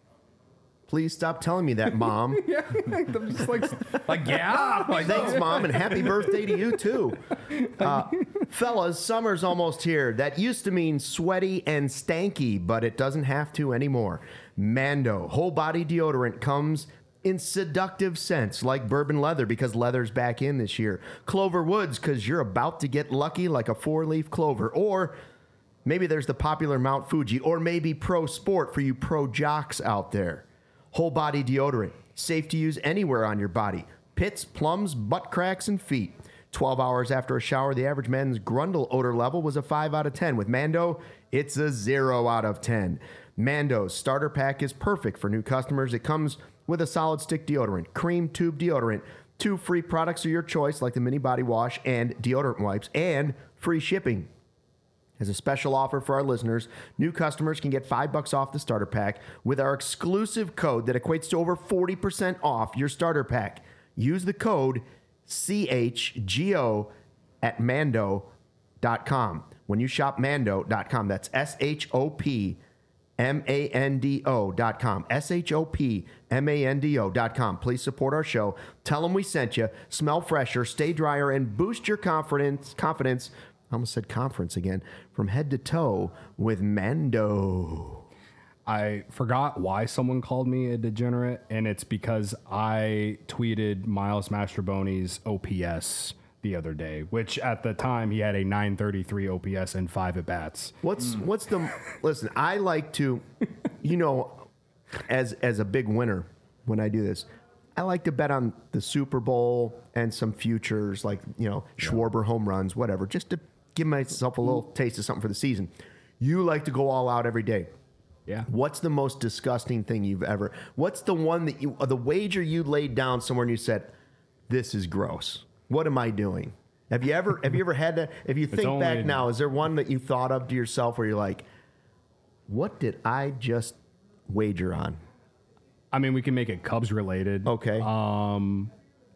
Speaker 1: Please stop telling me that, Mom.
Speaker 2: yeah, I'm just like, like yeah. Like,
Speaker 1: Thanks, Mom, and happy birthday to you, too. Uh, fellas, summer's almost here. That used to mean sweaty and stanky, but it doesn't have to anymore. Mando whole body deodorant comes in seductive scents like bourbon leather because leather's back in this year. Clover Woods because you're about to get lucky like a four-leaf clover. Or maybe there's the popular Mount Fuji. Or maybe Pro Sport for you pro jocks out there. Whole body deodorant, safe to use anywhere on your body. Pits, plums, butt cracks, and feet. twelve hours after a shower, the average man's Grundle odor level was a five out of ten. With Mando, it's a zero out of ten. Mando's starter pack is perfect for new customers. It comes with a solid stick deodorant, cream tube deodorant, two free products of your choice like the mini body wash and deodorant wipes, and free shipping. As a special offer for our listeners, new customers can get five bucks off the starter pack with our exclusive code that equates to over forty percent off your starter pack. Use the code C H G O at mando dot com. When you shop mando dot com, that's S H O P M A N D O dot com. S H O P M A N D O dot com. Please support our show. Tell them we sent you. Smell fresher, stay drier, and boost your confidence. Confidence. I almost said conference again. From head to toe with Mando.
Speaker 2: I forgot why someone called me a degenerate, and it's because I tweeted Miles Mastrobuoni's O P S the other day, which at the time he had a nine thirty-three O P S and five at bats.
Speaker 1: What's mm. what's the listen? I like to, you know, as as a big winner when I do this, I like to bet on the Super Bowl and some futures like you know Schwarber home runs, whatever, just to give myself a little taste of something for the season. You like to go all out every day.
Speaker 2: Yeah.
Speaker 1: What's the most disgusting thing you've ever? What's the one that you, the wager you laid down somewhere and you said, "This is gross. What am I doing?" Have you ever? Have you ever had that? If you think back in, now, is there one that you thought of to yourself where you're like, "What did I just wager on?"
Speaker 2: I mean, we can make it Cubs related.
Speaker 1: Okay.
Speaker 2: Um,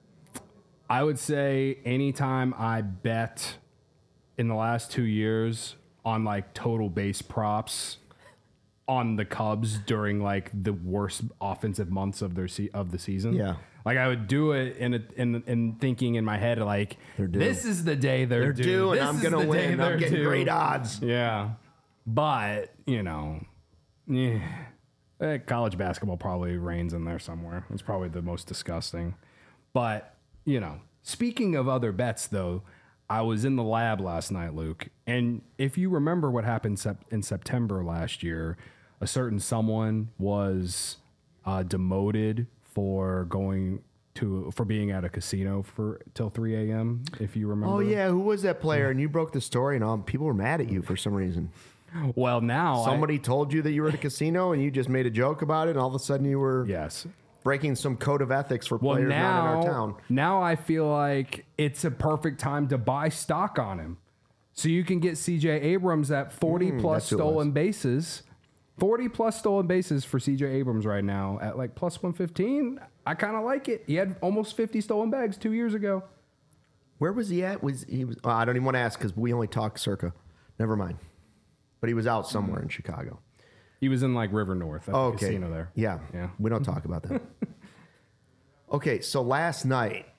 Speaker 2: I would say anytime I bet in the last two years on like total base props on the Cubs during like the worst offensive months of their se- of the season.
Speaker 1: Yeah.
Speaker 2: Like I would do it in a, in in thinking in my head like this is the day they're,
Speaker 1: they're
Speaker 2: due,
Speaker 1: due and
Speaker 2: this
Speaker 1: I'm gonna win. I'm getting
Speaker 2: due.
Speaker 1: great odds.
Speaker 2: Yeah, but you know, yeah, eh, college basketball probably reigns in there somewhere. It's probably the most disgusting. But you know, speaking of other bets though, I was in the lab last night, Luke, and if you remember what happened sep- in September last year, a certain someone was uh, demoted for going to for being at a casino for till three a.m. If you remember.
Speaker 1: Oh yeah, who was that player? And you broke the story, and all people were mad at you for some reason.
Speaker 2: Well, now
Speaker 1: somebody
Speaker 2: I,
Speaker 1: told you that you were at a casino, and you just made a joke about it, and all of a sudden you were
Speaker 2: yes
Speaker 1: breaking some code of ethics for
Speaker 2: well,
Speaker 1: players
Speaker 2: now,
Speaker 1: not in our town.
Speaker 2: Now I feel like it's a perfect time to buy stock on him, so you can get C J Abrams at forty
Speaker 1: Mm,
Speaker 2: plus
Speaker 1: that's who it
Speaker 2: stolen
Speaker 1: was.
Speaker 2: bases. forty plus stolen bases for C J Abrams right now at like plus one fifteen. I kind of like it. He had almost fifty stolen bags two years ago.
Speaker 1: Where was he at? Was he was? Oh, I don't even want to ask because we only talk Circa. Never mind. But he was out somewhere in Chicago.
Speaker 2: He was in like River North at
Speaker 1: Oh,
Speaker 2: the
Speaker 1: okay.
Speaker 2: casino there.
Speaker 1: Yeah.
Speaker 2: Yeah.
Speaker 1: We don't talk about that. Okay, so last night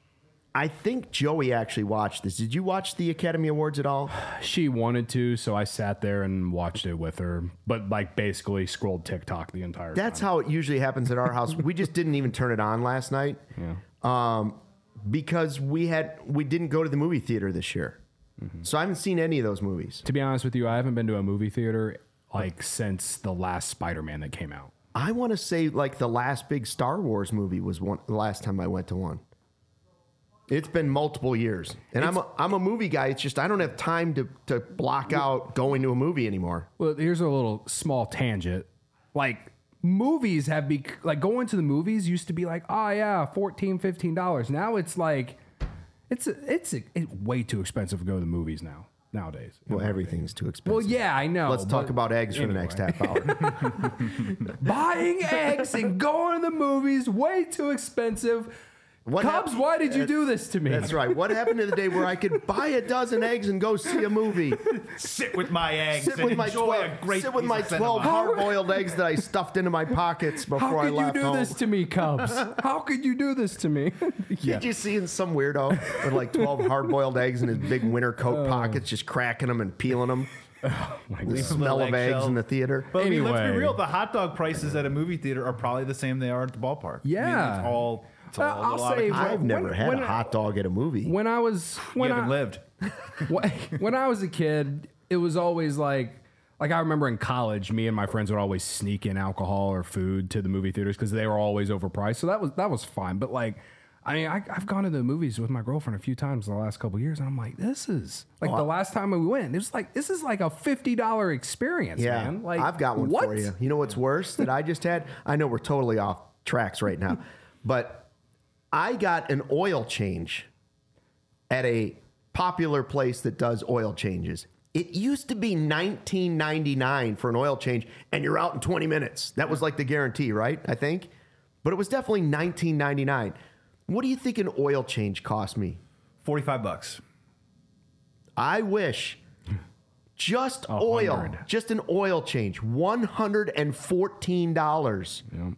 Speaker 1: I think Joey actually watched this. Did you watch the Academy Awards at all?
Speaker 2: She wanted to, so I sat there and watched it with her. But like basically scrolled TikTok the entire
Speaker 1: That's
Speaker 2: time.
Speaker 1: how it usually happens at our house. We just didn't even turn it on last night.
Speaker 2: Yeah.
Speaker 1: Um, because we had we didn't go to the movie theater this year. Mm-hmm. So I haven't seen any of those movies.
Speaker 2: To be honest with you, I haven't been to a movie theater like since the last Spider-Man that came out.
Speaker 1: I want to say like the last big Star Wars movie was one the last time I went to one. It's been multiple years. And I'm a, I'm a movie guy. It's just I don't have time to, to block out going to a movie anymore.
Speaker 2: Well, here's a little small tangent. Like movies have be like going to the movies used to be like, oh yeah, fourteen, fifteen dollars. Now it's like it's it's, it's way too expensive to go to the movies now. Nowadays.
Speaker 1: Well, everything's too expensive.
Speaker 2: Well, yeah, I know.
Speaker 1: Let's talk
Speaker 2: but
Speaker 1: about eggs for the
Speaker 2: anyway.
Speaker 1: next half hour.
Speaker 2: Buying eggs and going to the movies, way too expensive.
Speaker 1: What
Speaker 2: Cubs,
Speaker 1: hap-
Speaker 2: why did you do this to me?
Speaker 1: That's right. What happened to the day where I could buy a dozen eggs and go see a movie?
Speaker 7: Sit with my eggs
Speaker 1: Sit
Speaker 7: and
Speaker 1: with my
Speaker 7: enjoy
Speaker 1: twelve,
Speaker 7: a great
Speaker 1: sit with
Speaker 7: piece
Speaker 1: my
Speaker 7: of
Speaker 1: twelve
Speaker 7: cinema.
Speaker 1: hard-boiled eggs that I stuffed into my pockets before
Speaker 2: How
Speaker 1: I
Speaker 2: could you
Speaker 1: left
Speaker 2: do
Speaker 1: home.
Speaker 2: this to me, Cubs? How could you do this to me?
Speaker 1: Did you see some weirdo with like twelve hard-boiled eggs in his big winter coat pockets, just cracking them and peeling them? The smell of eggs in the theater.
Speaker 7: But I mean, let's
Speaker 2: Anyway.
Speaker 7: be real. The hot dog prices at a movie theater are probably the same they are at the ballpark.
Speaker 2: Yeah.
Speaker 7: I mean, it's all. It's all
Speaker 2: Uh,
Speaker 7: a
Speaker 2: I'll
Speaker 7: little out of
Speaker 2: say-
Speaker 7: control.
Speaker 1: I've
Speaker 2: when-
Speaker 1: never had
Speaker 2: when
Speaker 1: a
Speaker 2: I-
Speaker 1: hot dog at a movie.
Speaker 2: When I was when
Speaker 7: you haven't
Speaker 2: I,
Speaker 7: lived.
Speaker 2: when, when I was a kid, it was always like like I remember in college, me and my friends would always sneak in alcohol or food to the movie theaters because they were always overpriced. So that was that was fine. But like, I mean, I, I've gone to the movies with my girlfriend a few times in the last couple of years, and I'm like, this is like the last time we went. It was like this is like a fifty dollar experience,
Speaker 1: Yeah,
Speaker 2: man. Like
Speaker 1: I've got one
Speaker 2: what?
Speaker 1: for you. You know what's worse that I just had? I know we're totally off tracks right now, but I got an oil change at a popular place that does oil changes. It used to be nineteen ninety-nine for an oil change, and you're out in twenty minutes. That was like the guarantee, right? I think, but it was definitely nineteen ninety-nine. What do you think an oil change cost me?
Speaker 7: Forty-five bucks.
Speaker 1: I wish just oil,
Speaker 2: hundred.
Speaker 1: just an oil change, one hundred fourteen dollars.
Speaker 2: Yeah.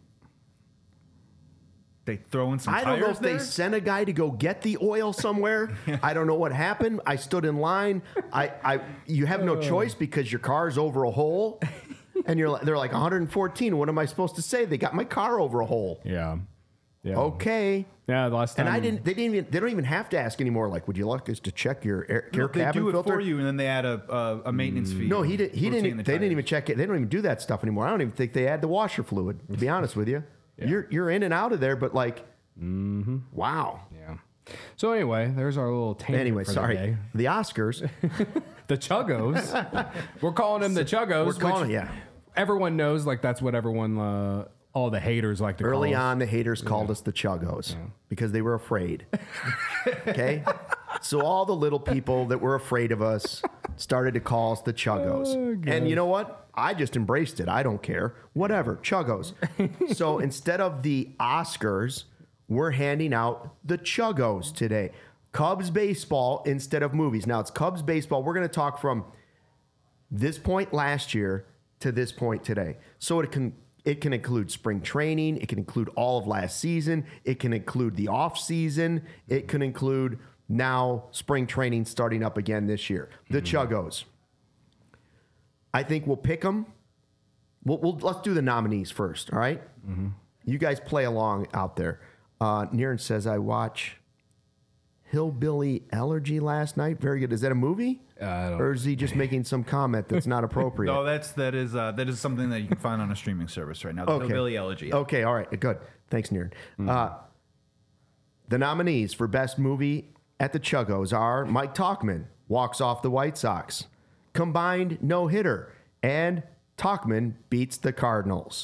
Speaker 7: They throw in some
Speaker 1: I don't know
Speaker 7: tires
Speaker 1: if they
Speaker 7: there?
Speaker 1: sent a guy to go get the oil somewhere. I don't know what happened. I stood in line. I, I you have no choice because your car's over a hole. And you're like, they're like one hundred fourteen. What am I supposed to say? They got my car over a hole.
Speaker 2: Yeah. Yeah.
Speaker 1: Okay.
Speaker 2: Yeah. The last time.
Speaker 1: And I didn't. They didn't even. They don't even have to ask anymore. Like, would you like us to check your air,
Speaker 7: No,
Speaker 1: your
Speaker 7: they
Speaker 1: cabin
Speaker 7: do it
Speaker 1: filter?
Speaker 7: for you, and then they add a a, a maintenance fee.
Speaker 1: No, he did. He
Speaker 7: Rotating
Speaker 1: didn't.
Speaker 7: the
Speaker 1: They didn't
Speaker 7: tires.
Speaker 1: even check it. They don't even do that stuff anymore. I don't even think they add the washer fluid. To be honest with you, you're you're in and out of there. But like, wow.
Speaker 2: Yeah. So anyway, there's our little tangent.
Speaker 1: Anyway,
Speaker 2: for
Speaker 1: sorry.
Speaker 2: The, day.
Speaker 1: The Oscars.
Speaker 2: the Chuggos. We're calling them the Chuggos.
Speaker 1: We're calling
Speaker 2: which
Speaker 1: it, yeah.
Speaker 2: Everyone knows, like that's what everyone, uh, all the haters like to
Speaker 1: Early
Speaker 2: call us.
Speaker 1: on, the haters called us the Chuggos because they were afraid. Okay? So all the little people that were afraid of us started to call us the Chuggos.
Speaker 2: Oh,
Speaker 1: and you know what? I just embraced it. I don't care. Whatever. Chuggos. So instead of the Oscars, we're handing out the Chuggos today. Cubs baseball instead of movies. Now, it's Cubs baseball. We're going to talk from this point last year to this point today. So it can it can include spring training, it can include all of last season, it can include the off season, it can include now spring training starting up again this year. The mm-hmm. Chuggos. I think we'll pick them. We'll, we'll let's do the nominees first. All right? Mm-hmm. You guys play along out there. Uh, Niren says I watch Hillbilly Elegy last night. Very good. Is that a movie?
Speaker 2: Uh, I don't
Speaker 1: or is he just making some comment that's not appropriate?
Speaker 7: No, that's that is uh, that is something that you can find on a streaming service right now. The
Speaker 1: Okay.
Speaker 7: Hillbilly Elegy.
Speaker 1: Okay, all right, good. Thanks, Niren. Uh, the nominees for Best Movie at the Chuggos are Mike Talkman, Walks Off the White Sox, Combined No Hitter, and Talkman Beats the Cardinals.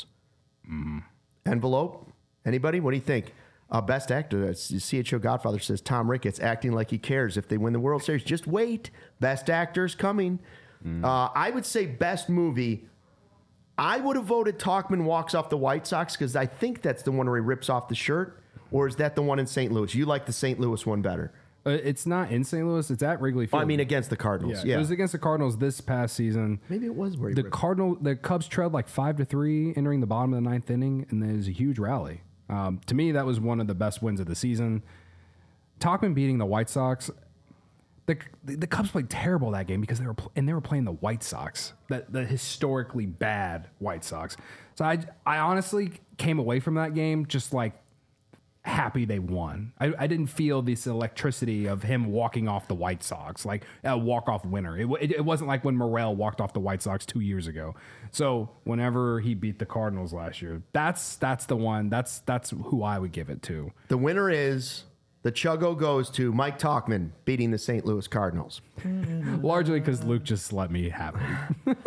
Speaker 1: Envelope? Anybody? What do you think? Uh, best actor, that's C H O Godfather says Tom Ricketts acting like he cares if they win the World Series. Just wait. Best actor's coming. Uh, I would say best movie. I would have voted Talkman Walks Off the White Sox because I think that's the one where he rips off the shirt. Or is that the one in Saint Louis? You like the Saint Louis one better.
Speaker 2: Uh, it's not in Saint Louis. It's at Wrigley Field.
Speaker 1: I mean, against the Cardinals.
Speaker 2: yeah,
Speaker 1: Yeah.
Speaker 2: it was against the Cardinals this past season.
Speaker 1: Maybe it was where he
Speaker 2: The
Speaker 1: ripped.
Speaker 2: Cardinal, the Cubs trailed like five to three entering the bottom of the ninth inning, and there's a huge rally. Um, to me, that was one of the best wins of the season. Talkman beating the White Sox. The, the Cubs played terrible that game because they were pl- and they were playing the White Sox, the, the historically bad White Sox. So I I honestly came away from that game just like happy they won. I, I didn't feel this electricity of him walking off the White Sox, like a walk-off winner. It, w- it, it wasn't like when Morel walked off the White Sox two years ago. So whenever he beat the Cardinals last year, that's that's the one. That's that's who I would give it to.
Speaker 1: The winner is the Chuggo goes to Mike Talkman beating the Saint Louis Cardinals.
Speaker 2: Largely because Luke just let me have it.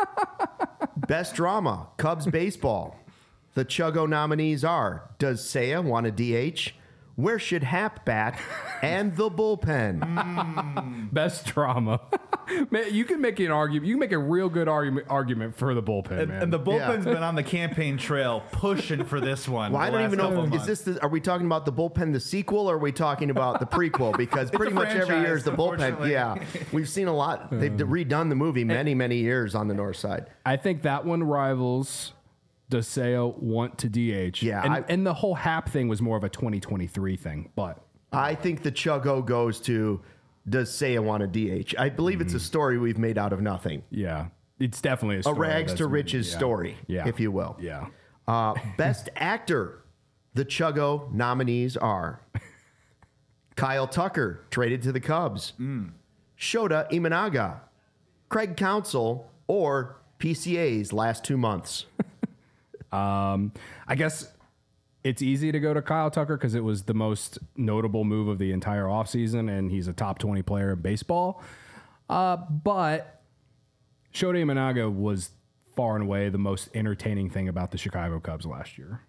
Speaker 1: Best drama, Cubs baseball. The Chuggo nominees are: Does Seiya want a D H? Where should Hap bat? And the bullpen.
Speaker 2: Best drama. Man, you can make an argument. You can make a real good argument argument for the bullpen,
Speaker 7: And,
Speaker 2: man.
Speaker 7: and the bullpen's
Speaker 1: Yeah.
Speaker 7: been on the campaign trail pushing for this one.
Speaker 1: Well, I
Speaker 7: the
Speaker 1: don't
Speaker 7: last
Speaker 1: even know.
Speaker 7: couple
Speaker 1: Is
Speaker 7: months.
Speaker 1: this the, are we talking about the bullpen, the sequel, or are we talking about the prequel? Because pretty
Speaker 7: a
Speaker 1: much every year is the bullpen.
Speaker 7: franchise,
Speaker 1: Yeah, we've seen a lot. They've redone the movie many, many years on the north side.
Speaker 2: I think that one rivals Does Seiya want to D H?
Speaker 1: Yeah,
Speaker 2: And,
Speaker 1: I-
Speaker 2: and the whole Hap thing was more of a twenty twenty-three thing. But
Speaker 1: I think the Chuggo goes to Does Seiya want a D H? I believe it's a story we've made out of nothing.
Speaker 2: yeah, it's definitely a,
Speaker 1: A
Speaker 2: story
Speaker 1: rags
Speaker 2: that's
Speaker 1: to
Speaker 2: been-
Speaker 1: riches
Speaker 2: yeah.
Speaker 1: story,
Speaker 2: yeah.
Speaker 1: if you will.
Speaker 2: Yeah.
Speaker 1: Uh, best actor. The Chuggo nominees are Kyle Tucker, traded to the Cubs, Shota Imanaga, Craig Counsell, or P C A's last two months.
Speaker 2: Um, I guess it's easy to go to Kyle Tucker because it was the most notable move of the entire offseason, and he's a top twenty player in baseball. Uh, but Shota Imanaga was far and away the most entertaining thing about the Chicago Cubs last year.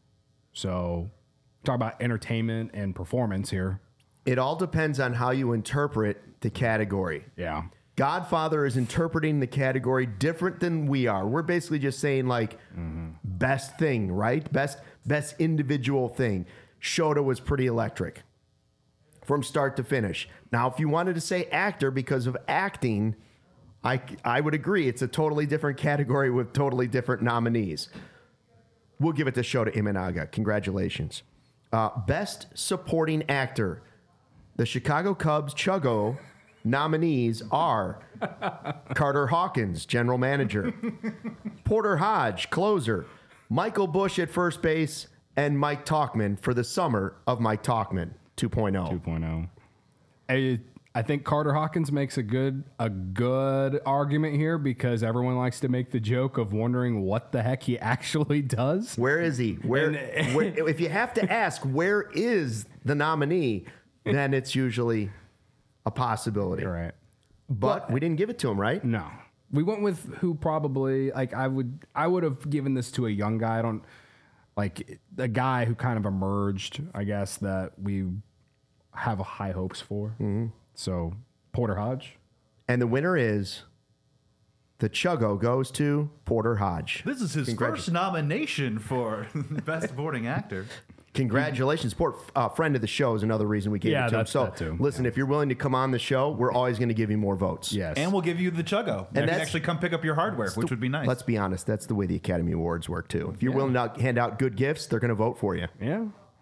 Speaker 2: So, talk about entertainment and performance here.
Speaker 1: It all depends on how you interpret the category.
Speaker 2: Yeah.
Speaker 1: Godfather is interpreting the category different than we are. We're basically just saying like best thing, right? Best best individual thing. Shota was pretty electric from start to finish. Now, if you wanted to say actor because of acting, I I would agree. It's a totally different category with totally different nominees. We'll give it to Shota Imanaga. Congratulations. Uh, best supporting actor. The Chicago Cubs Chuggo nominees are Carter Hawkins, general manager, Porter Hodge, closer, Michael Bush at first base, and Mike Talkman for the summer of Mike Talkman two point oh.
Speaker 2: two point oh. I, I think Carter Hawkins makes a good a good argument here because everyone likes to make the joke of wondering what the heck he actually does.
Speaker 1: Where is he? Where,
Speaker 2: And-
Speaker 1: where if you have to ask where is the nominee, then it's usually a possibility.
Speaker 2: Right.
Speaker 1: But we didn't give it to him, right?
Speaker 2: No. We went with who probably like I would I would have given this to a young guy. I don't like a guy who kind of emerged, I guess, that we have high hopes for. Mm-hmm. So Porter Hodge.
Speaker 1: And the winner is the Chuggo goes to Porter Hodge.
Speaker 7: This is his
Speaker 1: Congratu-
Speaker 7: first nomination for Best Supporting Actor.
Speaker 1: Congratulations. Port, uh, friend of the show is another reason we gave
Speaker 2: Yeah,
Speaker 1: it to him.
Speaker 2: that's
Speaker 1: So
Speaker 2: that too.
Speaker 1: listen, if you're willing to come on the show, we're always going to give you more votes.
Speaker 2: Yes.
Speaker 7: And we'll give you the Chuggo. And you can
Speaker 1: that's-
Speaker 7: actually come pick up your hardware, which would be nice.
Speaker 1: Let's be honest. That's the way the Academy Awards work, too. If you're willing to hand out good gifts, they're going to vote for you.
Speaker 2: Yeah.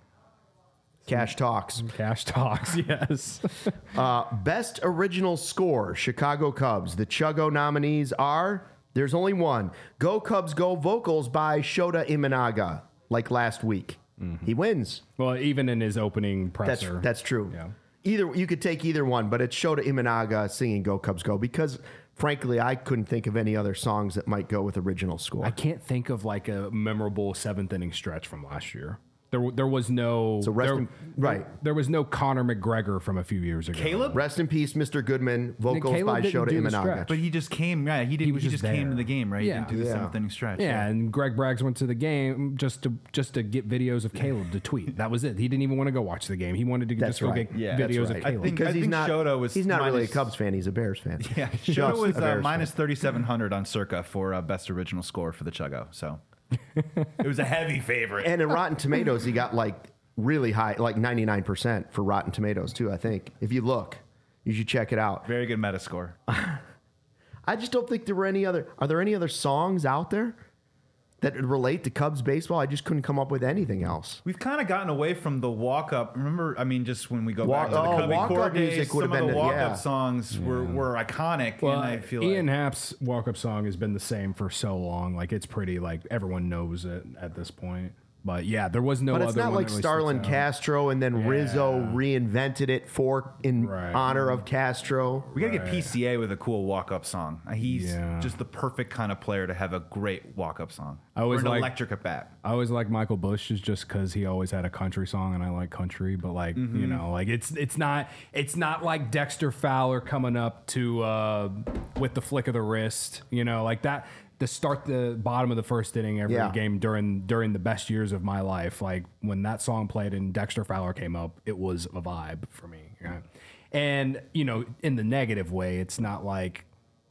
Speaker 1: Cash talks.
Speaker 2: Cash talks, yes.
Speaker 1: Uh, best original score, Chicago Cubs. The Chuggo nominees are, there's only one. Go Cubs Go vocals by Shota Imanaga, like last week. He wins.
Speaker 2: Well, even in his opening
Speaker 1: That's
Speaker 2: presser.
Speaker 1: that's true.
Speaker 2: Yeah.
Speaker 1: Either you could take either one, but it's Shota Imanaga singing "Go Cubs Go" because, frankly, I couldn't think of any other songs that might go with original score.
Speaker 2: I can't think of like a memorable seventh inning stretch from last year. There, there was no.
Speaker 1: So rest
Speaker 2: there,
Speaker 1: in- right.
Speaker 2: There was no Conor McGregor from a few years ago.
Speaker 7: Caleb?
Speaker 1: Rest in peace, Mister Goodman. Vocals
Speaker 2: Caleb
Speaker 1: by
Speaker 2: didn't
Speaker 1: Shota
Speaker 2: do the
Speaker 1: Imanaga.
Speaker 2: stretch.
Speaker 7: But he just came, yeah, he, did, he,
Speaker 2: was
Speaker 7: just,
Speaker 2: just
Speaker 7: came
Speaker 2: there.
Speaker 7: to the game, right? He
Speaker 2: Yeah.
Speaker 7: didn't do the
Speaker 1: Yeah.
Speaker 7: seventh inning stretch.
Speaker 2: Yeah, and Greg Braggs went to the game just to just to get videos of Caleb to tweet. That was it. He didn't even want to go watch the game. He wanted to
Speaker 1: That's
Speaker 2: just go
Speaker 1: right.
Speaker 2: get
Speaker 7: Yeah,
Speaker 2: videos
Speaker 1: that's
Speaker 2: of
Speaker 1: right.
Speaker 7: I
Speaker 2: Caleb.
Speaker 7: think-
Speaker 1: because he's
Speaker 7: think
Speaker 1: not.
Speaker 7: Shota was
Speaker 1: he's not really a
Speaker 7: minus-
Speaker 1: Cubs fan. He's a Bears fan.
Speaker 7: Yeah,
Speaker 1: Just
Speaker 7: Shota
Speaker 1: a
Speaker 7: was uh,
Speaker 1: Bears
Speaker 7: minus thirty-seven hundred on Circa for uh, Best Original Score for the Chuggo. So it was a heavy favorite.
Speaker 1: And in Rotten Tomatoes, he got like really high, like ninety-nine percent for Rotten Tomatoes too. I think if you look, you should check it out.
Speaker 7: Very good meta score.
Speaker 1: I just don't think there were any other. Are there any other songs out there that relate to Cubs baseball. I just couldn't come up with anything else.
Speaker 7: We've kind of gotten away from the walk up. Remember, I mean, just when we go
Speaker 1: Walk-
Speaker 7: back to the
Speaker 1: oh,
Speaker 7: Cubby
Speaker 1: walk-up
Speaker 7: Core days,
Speaker 1: music would
Speaker 7: some
Speaker 1: have
Speaker 7: of the
Speaker 1: been-
Speaker 7: walk up
Speaker 1: yeah.
Speaker 7: songs were, were iconic.
Speaker 2: Well,
Speaker 7: and I feel
Speaker 2: Ian
Speaker 7: like
Speaker 2: Happ's walk-up song has been the same for so long. Like it's pretty like everyone knows it at this point. But yeah, there was no.
Speaker 1: But it's
Speaker 2: other
Speaker 1: not
Speaker 2: one
Speaker 1: like
Speaker 2: that really
Speaker 1: Starlin
Speaker 2: sticks out.
Speaker 1: Castro and then Rizzo
Speaker 2: Yeah.
Speaker 1: reinvented it for in
Speaker 2: Right.
Speaker 1: honor of Castro.
Speaker 7: we got to get P C A with a cool walk up song. Uh, He's
Speaker 2: Yeah.
Speaker 7: just the perfect kind of player to have a great walk up song.
Speaker 2: I always
Speaker 7: or an
Speaker 2: like-
Speaker 7: electric at bat.
Speaker 2: I always like Michael Bush is just because he always had a country song, and I like country. But like
Speaker 1: Mm-hmm.
Speaker 2: you know, like it's it's not it's not like Dexter Fowler coming up to uh, with the flick of the wrist. You know, like that. To start the bottom of the first inning every
Speaker 1: Yeah.
Speaker 2: game during during the best years of my life, like when that song played and Dexter Fowler came up, it was a vibe for me. Yeah. And you know, in the negative way, it's not like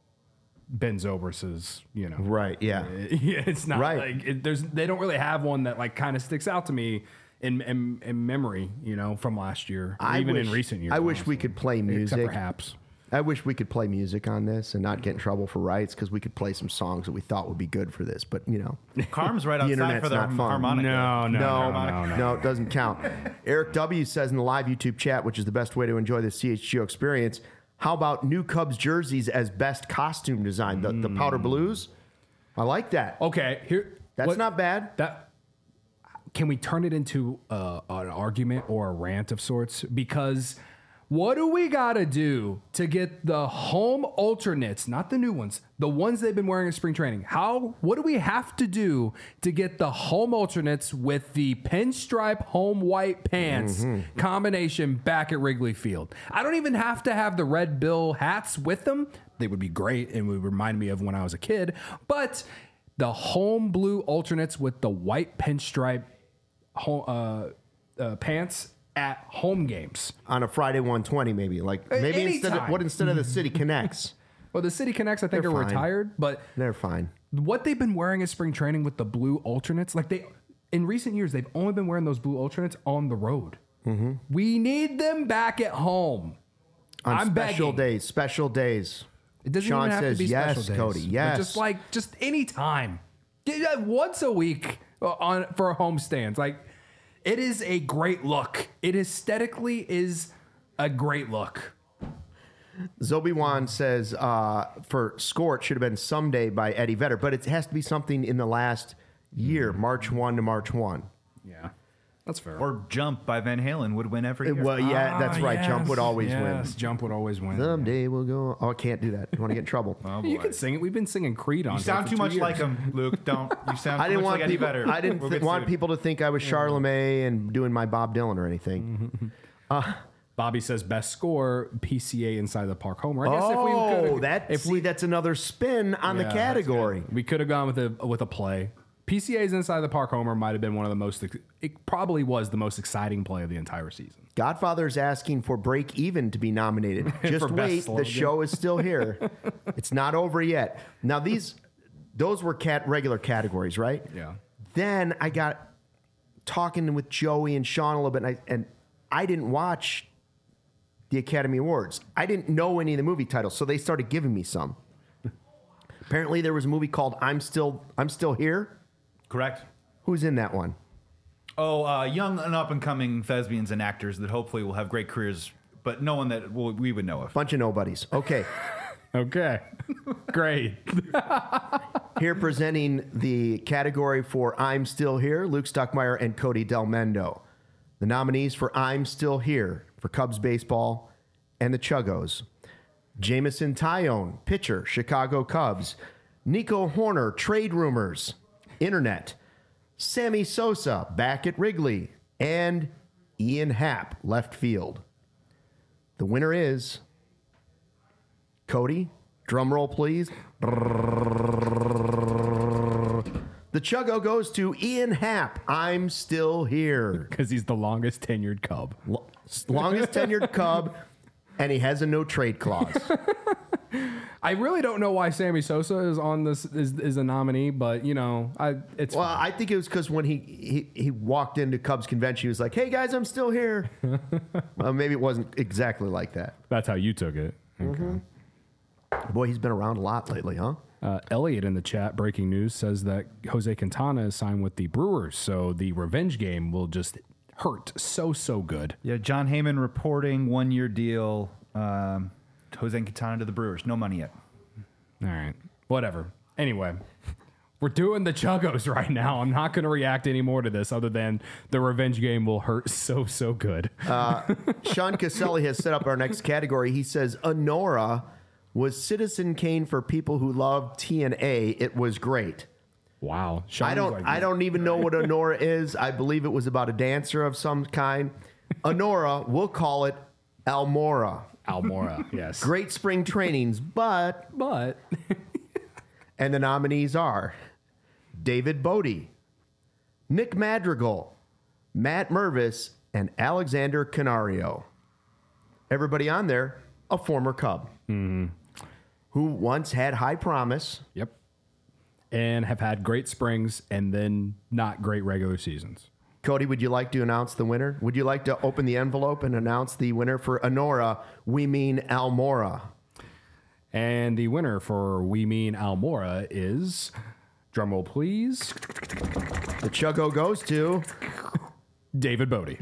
Speaker 2: Ben Zobrist's, you know,
Speaker 1: Right, yeah.
Speaker 2: yeah, it's not
Speaker 1: Right.
Speaker 2: like it, there's they don't really have one that like kind of sticks out to me in, in in memory, you know, from last year, or
Speaker 1: I
Speaker 2: even
Speaker 1: wish,
Speaker 2: in recent years.
Speaker 1: I wish we
Speaker 2: honestly.
Speaker 1: could play
Speaker 2: except
Speaker 1: music.
Speaker 2: for Haps.
Speaker 1: I wish we could play music on this and not get in trouble for rights because we could play some songs that we thought would be good for this. But you know,
Speaker 7: Carm's right
Speaker 1: The
Speaker 7: outside
Speaker 1: internet's
Speaker 7: for the
Speaker 1: not fun.
Speaker 7: harmonica.
Speaker 2: No, no,
Speaker 1: no,
Speaker 2: no, no, no.
Speaker 1: no, it doesn't count. Eric W says in the live YouTube chat, which is the best way to enjoy the C H G O experience. How about new Cubs jerseys as best costume design? The, the powder blues. I like that.
Speaker 2: Okay, here
Speaker 1: That's
Speaker 2: what-
Speaker 1: not bad.
Speaker 2: That can we turn it into uh, an argument or a rant of sorts? Because what do we got to do to get the home alternates, not the new ones, the ones they've been wearing in spring training? How? What do we have to do to get the home alternates with the pinstripe home white pants combination back at Wrigley Field? I don't even have to have the red bill hats with them. They would be great and would remind me of when I was a kid. But the home blue alternates with the white pinstripe home, uh, uh, pants at home games.
Speaker 1: On a Friday one twenty, maybe like maybe instead of
Speaker 2: anytime.
Speaker 1: what instead of the City Connects,
Speaker 2: Well, the City Connects, I think,
Speaker 1: They're
Speaker 2: are
Speaker 1: fine.
Speaker 2: retired, but
Speaker 1: they're fine.
Speaker 2: what they've been wearing in spring training with the blue alternates, like they, in recent years, they've only been wearing those blue alternates on the road.
Speaker 1: Mm-hmm.
Speaker 2: We need them back at home.
Speaker 1: On
Speaker 2: I'm
Speaker 1: special
Speaker 2: begging.
Speaker 1: days, special days.
Speaker 2: It doesn't
Speaker 1: Sean
Speaker 2: even have
Speaker 1: says
Speaker 2: to be
Speaker 1: yes,
Speaker 2: special days.
Speaker 1: Cody.
Speaker 2: But
Speaker 1: Yes,
Speaker 2: just like just any time, Yeah, once a week on for home stands. Like it is a great look. It aesthetically is a great look.
Speaker 1: Zobi Wan says uh, for Score it should have been Someday by Eddie Vedder, but it has to be something in the last year, March first to March first.
Speaker 2: Yeah, that's fair.
Speaker 7: Or Jump by Van Halen would win every year.
Speaker 1: Well, yeah, that's
Speaker 2: Ah,
Speaker 1: right. Jump
Speaker 2: yes,
Speaker 1: would always
Speaker 2: yes,
Speaker 1: win.
Speaker 2: Jump would always win.
Speaker 1: Someday we'll go. Oh, I can't do that. I want to get in trouble.
Speaker 7: Oh,
Speaker 2: You
Speaker 7: boy.
Speaker 2: can sing it. We've been singing Creed on.
Speaker 7: You sound too much like him, Luke. Don't. You sound
Speaker 1: I
Speaker 7: too
Speaker 1: didn't
Speaker 7: much
Speaker 1: want
Speaker 7: like Eddie
Speaker 1: people.
Speaker 7: Vedder.
Speaker 1: I didn't
Speaker 7: We'll
Speaker 1: th-
Speaker 7: get
Speaker 1: want
Speaker 7: sued.
Speaker 1: people to think I was Charlemagne and doing my Bob Dylan or anything.
Speaker 2: Bobby says best score P C A inside the park homer. I guess if we
Speaker 1: Oh,
Speaker 2: could,
Speaker 1: that
Speaker 2: if
Speaker 1: see,
Speaker 2: we
Speaker 1: that's another spin on
Speaker 2: Yeah,
Speaker 1: the
Speaker 2: that's
Speaker 1: category.
Speaker 2: we could have gone with a with a play. P C A's inside the park homer might have been one of the most. It probably was the most exciting play of the entire season.
Speaker 1: Godfather's asking for Break Even to be nominated. Just
Speaker 2: For best
Speaker 1: wait, the
Speaker 2: slogan.
Speaker 1: show is still here. It's not over yet. Now these, those were cat regular categories, right?
Speaker 2: Yeah.
Speaker 1: Then I got talking with Joey and Sean a little bit, and I, and I didn't watch the Academy Awards. I didn't know any of the movie titles, so they started giving me some. Apparently, there was a movie called "I'm Still I'm Still Here."
Speaker 7: Correct.
Speaker 1: Who's in that one?
Speaker 7: Oh, uh, young and up and coming thespians and actors that hopefully will have great careers, but no one that will, we would know of.
Speaker 1: Bunch of nobodies. Okay.
Speaker 2: Okay, great.
Speaker 1: Here presenting the category for I'm Still Here, Luke Stuckmeyer and Cody Del Mendo. The nominees for I'm Still Here for Cubs baseball and the Chuggos. Jamison Tyone, pitcher, Chicago Cubs. Nico Horner, trade rumors, internet. Sammy Sosa, back at Wrigley. And Ian Happ, left field. The winner is Cody. Drum roll, please. The Chuggo goes to Ian Happ. I'm Still Here.
Speaker 2: Because he's the longest tenured Cub.
Speaker 1: Lo- Longest tenured Cub, and he has a no trade clause.
Speaker 2: I really don't know why Sammy Sosa is on this is, is a nominee, but you know, I it's
Speaker 1: Well, I think it was because when he, he he walked into Cubs convention, he was like, "Hey guys, I'm still here." Well, maybe it wasn't exactly like that.
Speaker 2: that's how you took it. Okay.
Speaker 1: Boy, he's been around a lot lately, huh?
Speaker 2: Uh, Elliot in the chat, breaking news, says that Jose Quintana is signed with the Brewers, so the revenge game will just hurt so, so good.
Speaker 7: Yeah, John Heyman reporting one-year deal. Um, Jose Quintana to the Brewers. No money yet.
Speaker 2: All right. Whatever. Anyway, we're doing the Chuggos right now. I'm not going to react anymore to this other than the revenge game will hurt so, so good.
Speaker 1: Uh, Sean Caselli has set up our next category. He says, Honora was Citizen Kane for people who love T N A. It was great.
Speaker 2: Wow. Sean
Speaker 1: I don't
Speaker 2: like,
Speaker 1: I don't even know what Honora is. I believe it was about a dancer of some kind. Honora, we'll call it Almora.
Speaker 2: Almora, yes.
Speaker 1: Great spring trainings, but
Speaker 2: But
Speaker 1: and the nominees are David Bodie, Nick Madrigal, Matt Mervis, and Alexander Canario. Everybody on there, a former Cub.
Speaker 2: Mm-hmm.
Speaker 1: Who once had high promise.
Speaker 2: Yep. And have had great springs and then not great regular seasons.
Speaker 1: Cody, would you like to announce the winner? Would you like to open the envelope and announce the winner for Honora? We mean Almora.
Speaker 2: And the winner for We Mean Almora is, drumroll please,
Speaker 1: The Chuggo goes to
Speaker 2: David Bodie.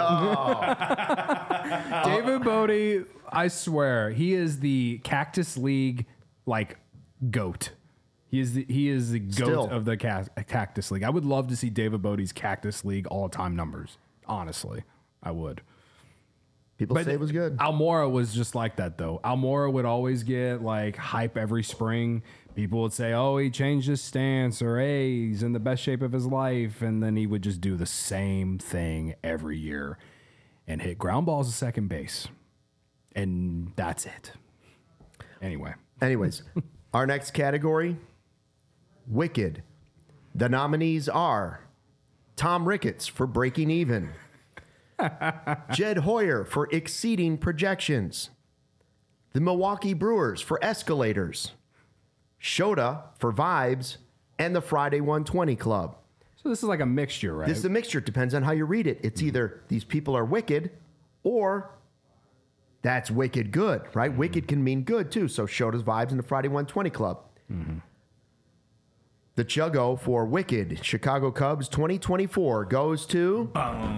Speaker 2: David Bodie, I swear, he is the Cactus League like goat. He is the he is the goat
Speaker 1: Still.
Speaker 2: of the ca- Cactus League. I would love to see David Bodie's Cactus League all time numbers. Honestly, I would.
Speaker 1: People say it was good.
Speaker 2: Almora was just like that, though. Almora would always get like hype every spring. People would say, "Oh, he changed his stance," or "Hey, he's in the best shape of his life," and then he would just do the same thing every year and hit ground balls at second base, and that's it. Anyway,
Speaker 1: Anyways, our next category, Wicked. The nominees are Tom Ricketts for Breaking Even, Jed Hoyer for Exceeding Projections, the Milwaukee Brewers for Escalators, Shota for Vibes, and the Friday one twenty Club.
Speaker 2: so this is like a mixture, right?
Speaker 1: This is a mixture. It depends on how you read it. It's either these people are wicked or that's wicked good, right?
Speaker 2: Mm-hmm.
Speaker 1: Wicked can mean good too. So Shota's Vibes and the Friday one twenty Club.
Speaker 2: Mm-hmm.
Speaker 1: The Chuggo for Wicked Chicago Cubs twenty twenty-four goes to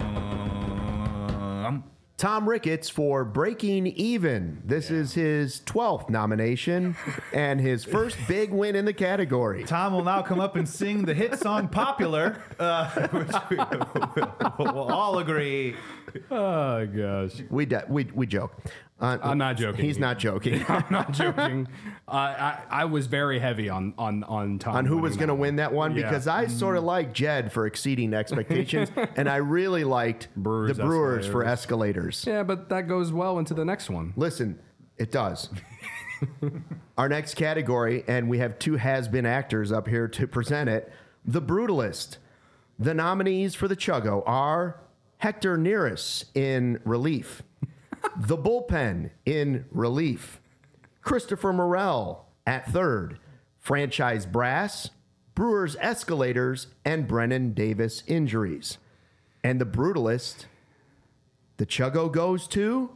Speaker 7: Um,
Speaker 1: Tom Ricketts for Breaking Even. This is his twelfth nomination and his first big win in the category.
Speaker 7: Tom will now come up and sing the hit song Popular, uh, which we, we'll all agree.
Speaker 2: oh gosh,
Speaker 1: We de- we we joke. Uh,
Speaker 2: I'm not joking.
Speaker 1: He's not joking.
Speaker 2: I'm not joking. Uh, I I was very heavy on on on Tom
Speaker 1: On who
Speaker 2: winning
Speaker 1: was going to
Speaker 2: that
Speaker 1: win that one,
Speaker 2: Yeah.
Speaker 1: because I sort of like Jed for exceeding expectations, and I really liked
Speaker 2: Brewers,
Speaker 1: the Brewers for
Speaker 2: Escalators.
Speaker 1: Escalators.
Speaker 2: Yeah, but that goes well into the next one.
Speaker 1: Listen, it does. Our next category, and we have two has-been actors up here to present it, The Brutalist. The nominees for the Chuggo are Hector Neris in Relief, The Bullpen in Relief, Christopher Morel at third, Franchise Brass, Brewers Escalators, and Brennan Davis Injuries. And The Brutalist, the Chuggo goes to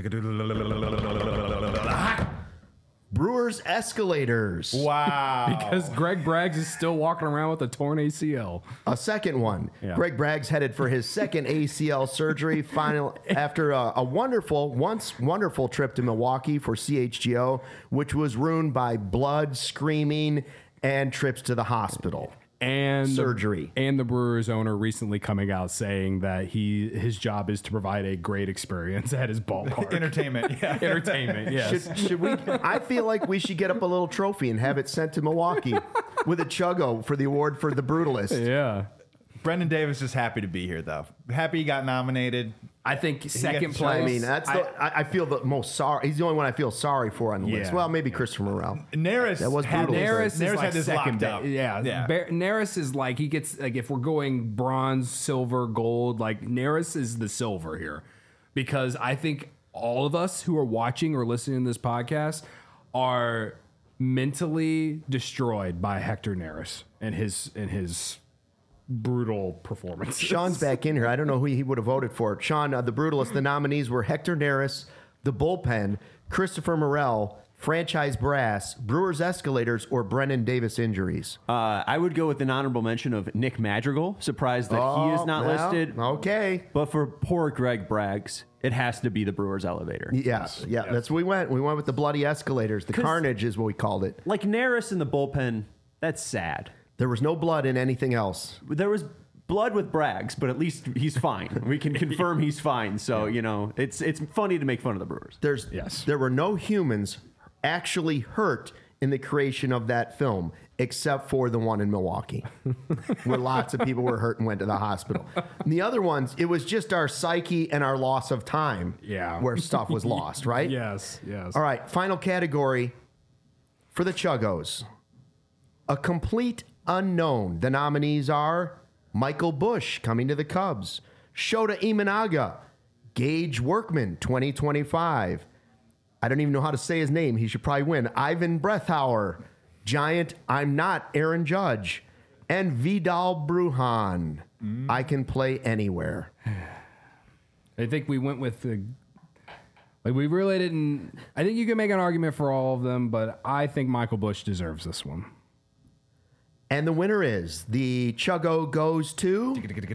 Speaker 1: Brewers Escalators.
Speaker 7: Wow.
Speaker 2: Because Greg Braggs is still walking around with a torn A C L.
Speaker 1: A second one.
Speaker 2: Yeah.
Speaker 1: Greg Braggs headed for his second A C L surgery final after a, a wonderful, once wonderful trip to Milwaukee for C H G O, which was ruined by blood, screaming, and trips to the hospital.
Speaker 2: And
Speaker 1: Surgery.
Speaker 2: The, and the Brewers owner recently coming out saying that he his job is to provide a great experience at his ballpark.
Speaker 7: Entertainment, yeah.
Speaker 2: Entertainment, yes.
Speaker 1: Should, should we? I feel like we should get up a little trophy and have it sent to Milwaukee with a Chuggo for the award for the Brutalist.
Speaker 2: yeah.
Speaker 7: Brendan Davis is happy to be here, though. Happy he got nominated.
Speaker 2: I think second
Speaker 7: to-
Speaker 2: place.
Speaker 1: I mean, that's the, I, I feel the most sorry. He's the only one I feel sorry for on the list.
Speaker 2: Yeah.
Speaker 1: Well, maybe Christopher Morel.
Speaker 7: Neris
Speaker 1: That was
Speaker 7: had
Speaker 1: brutal.
Speaker 7: this-
Speaker 2: Neris is
Speaker 7: Neris
Speaker 2: like
Speaker 7: had this
Speaker 2: second
Speaker 7: locked
Speaker 2: ba-
Speaker 7: up.
Speaker 2: Yeah,
Speaker 7: yeah.
Speaker 2: Bar- Neris is like he gets like if we're going bronze, silver, gold, like Neris is the silver here, because I think all of us who are watching or listening to this podcast are mentally destroyed by Hector Neris and his and his brutal performance.
Speaker 1: Sean's back in here. I don't know who he would have voted for. Sean, uh, the Brutalist, the nominees were Hector Neris, the bullpen, Christopher Morel, franchise brass, Brewers Escalators, or Brennan Davis injuries?
Speaker 8: Uh, I would go with an honorable mention of Nick Madrigal. Surprised that he is not
Speaker 1: Oh, well,
Speaker 8: listed.
Speaker 1: Okay.
Speaker 8: But for poor Greg Braggs, it has to be the Brewers elevator.
Speaker 1: Yeah, yeah, that's what we went. We went with the bloody escalators. The
Speaker 8: 'Cause-
Speaker 1: carnage is what we called it.
Speaker 8: Like Neris in the bullpen, that's sad.
Speaker 1: There was no blood in anything else.
Speaker 8: There was blood with Braggs, but at least he's fine. We can confirm he's fine. So, you know, it's it's funny to make fun of the Brewers.
Speaker 1: There's
Speaker 2: Yes.
Speaker 1: There were no humans actually hurt in the creation of that film, except for the one in Milwaukee, where lots of people were hurt and went to the hospital. And the other ones, it was just our psyche and our loss of time,
Speaker 2: Yeah.
Speaker 1: where stuff was lost, right?
Speaker 2: Yes, yes.
Speaker 1: All right, final category for the Chuggos. A complete unknown. The nominees are Michael Busch coming to the Cubs, Shota Imanaga, Gage Workman, twenty twenty-five. I don't even know how to say his name. He should probably win. Ivan Brethauer, Giant, I'm not Aaron Judge, and Vidal Brujan. I can play anywhere.
Speaker 2: I think we went with the. Like we really didn't. I think you can make an argument for all of them, but I think Michael Busch deserves this one.
Speaker 1: And the winner is the Chuggo goes to.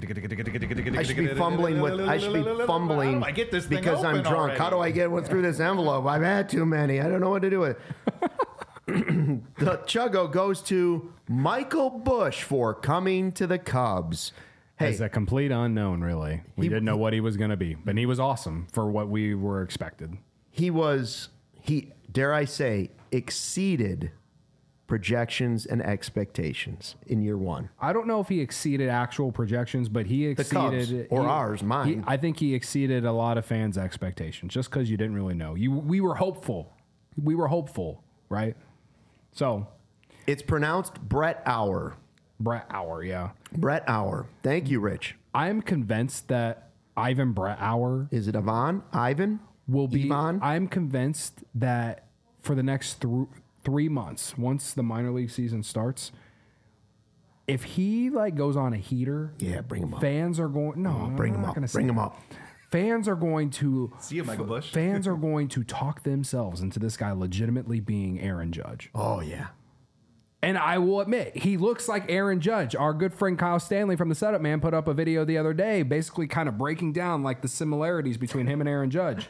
Speaker 1: I should be fumbling with. I should be fumbling
Speaker 7: How do I get this thing
Speaker 1: because I'm
Speaker 7: open
Speaker 1: drunk.
Speaker 7: already?
Speaker 1: How do I get one through this envelope? I've had too many. I don't know what to do with it. The Chuggo goes to Michael Busch for coming to the Cubs. Hey,
Speaker 2: As a complete unknown, really. We
Speaker 1: He-
Speaker 2: didn't know what he was going to be, but he was awesome for what we were expected.
Speaker 1: he was. He dare I say exceeded projections and expectations in year one.
Speaker 2: I don't know if he exceeded actual projections, but he
Speaker 1: Cubs,
Speaker 2: exceeded
Speaker 1: or
Speaker 2: he-
Speaker 1: ours, mine.
Speaker 2: he- I think he exceeded a lot of fans' expectations just because you didn't really know. You, we were hopeful. We were hopeful, right? So,
Speaker 1: It's pronounced Brett Hour.
Speaker 2: Brett Hour, yeah.
Speaker 1: Brett Hour. Thank you, Rich.
Speaker 2: I'm convinced that Ivan Brett Hour
Speaker 1: Is it Ivan? Ivan?
Speaker 2: will be.
Speaker 1: Ivan?
Speaker 2: I'm convinced that for the next th- three months, once the minor league season starts, if he like goes on a heater,
Speaker 1: Yeah, bring him up.
Speaker 2: fans are going. No, I'm
Speaker 1: Bring him
Speaker 2: not
Speaker 1: up.
Speaker 2: gonna say
Speaker 1: Bring him
Speaker 2: that.
Speaker 1: up.
Speaker 2: Fans are going to
Speaker 7: See you, Michael Busch.
Speaker 2: Fans are going to talk themselves into this guy legitimately being Aaron Judge.
Speaker 1: Oh, yeah.
Speaker 2: And I will admit, he looks like Aaron Judge. Our good friend Kyle Stanley from the Setup Man put up a video the other day, basically kind of breaking down like the similarities between him and Aaron Judge.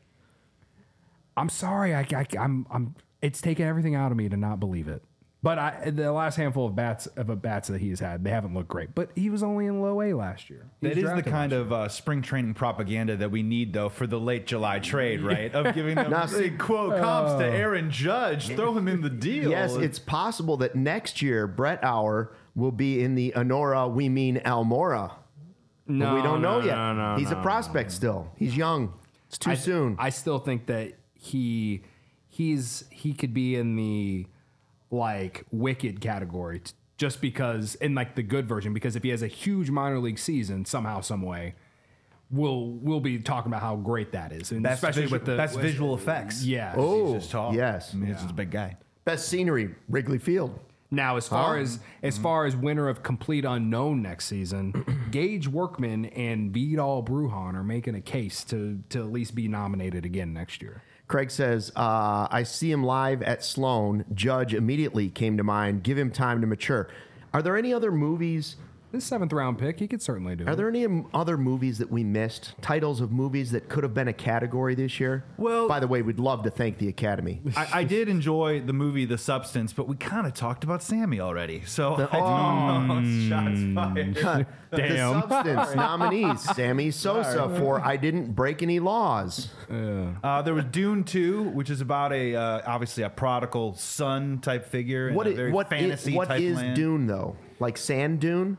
Speaker 2: I'm sorry, I, I, I'm, I'm. It's taken everything out of me to not believe it. But I, the last handful of bats of a bats that he's had, they haven't looked great. But he was only in low A last year. He
Speaker 7: That
Speaker 2: was
Speaker 7: is the
Speaker 2: drafted
Speaker 7: kind
Speaker 2: last
Speaker 7: of uh, spring training propaganda that we need, though, for the late July trade, right? Of giving them
Speaker 1: Now, see-
Speaker 7: big quote comps to Aaron Judge, throw him in the deal.
Speaker 1: Yes, it's possible that next year Brett Hour will be in the Honora, we mean Almora.
Speaker 2: No,
Speaker 1: but we don't know
Speaker 2: no,
Speaker 1: yet.
Speaker 2: no, no,
Speaker 1: He's a
Speaker 2: no,
Speaker 1: prospect still. He's young. It's too
Speaker 2: I,
Speaker 1: soon.
Speaker 2: I still think that he he's he could be in the like wicked category t- just because in like the good version, because if he has a huge minor league season somehow, some way, we'll we'll be talking about how great that is. And
Speaker 7: best
Speaker 2: especially
Speaker 7: visual,
Speaker 2: with the
Speaker 7: best
Speaker 2: with-
Speaker 7: visual effects.
Speaker 2: Yeah.
Speaker 1: oh,
Speaker 7: He's just tall.
Speaker 1: yes.
Speaker 7: I mean, he's just a big guy.
Speaker 1: Best scenery, Wrigley Field.
Speaker 2: Now, as far
Speaker 1: Huh?
Speaker 2: as as far as winner of complete unknown next season, Gage Workman and Vidal Brujan are making a case to to at least be nominated again next year.
Speaker 1: Craig says, uh, I see him live at Sloan. Judge immediately came to mind. Give him time to mature. Are there any other movies?
Speaker 2: This seventh round pick, he could certainly do
Speaker 1: Are
Speaker 2: it.
Speaker 1: there any m- other movies that we missed? Titles of movies that could have been a category this year?
Speaker 7: Well-
Speaker 1: by the way, we'd love to thank the Academy.
Speaker 7: I, I did enjoy the movie The Substance, but we kind of talked about Sammy already. So
Speaker 1: The-
Speaker 7: I don't know. Shots fired.
Speaker 1: The Substance nominees: Sammy Sosa for "I Didn't Break Any Laws."
Speaker 7: Uh, there was Dune two, which is about a uh, obviously a prodigal son type figure in
Speaker 1: What
Speaker 7: a
Speaker 1: is,
Speaker 7: very
Speaker 1: what is,
Speaker 7: fantasy
Speaker 1: what
Speaker 7: type
Speaker 1: is
Speaker 7: land.
Speaker 1: Dune though? Like sand dune?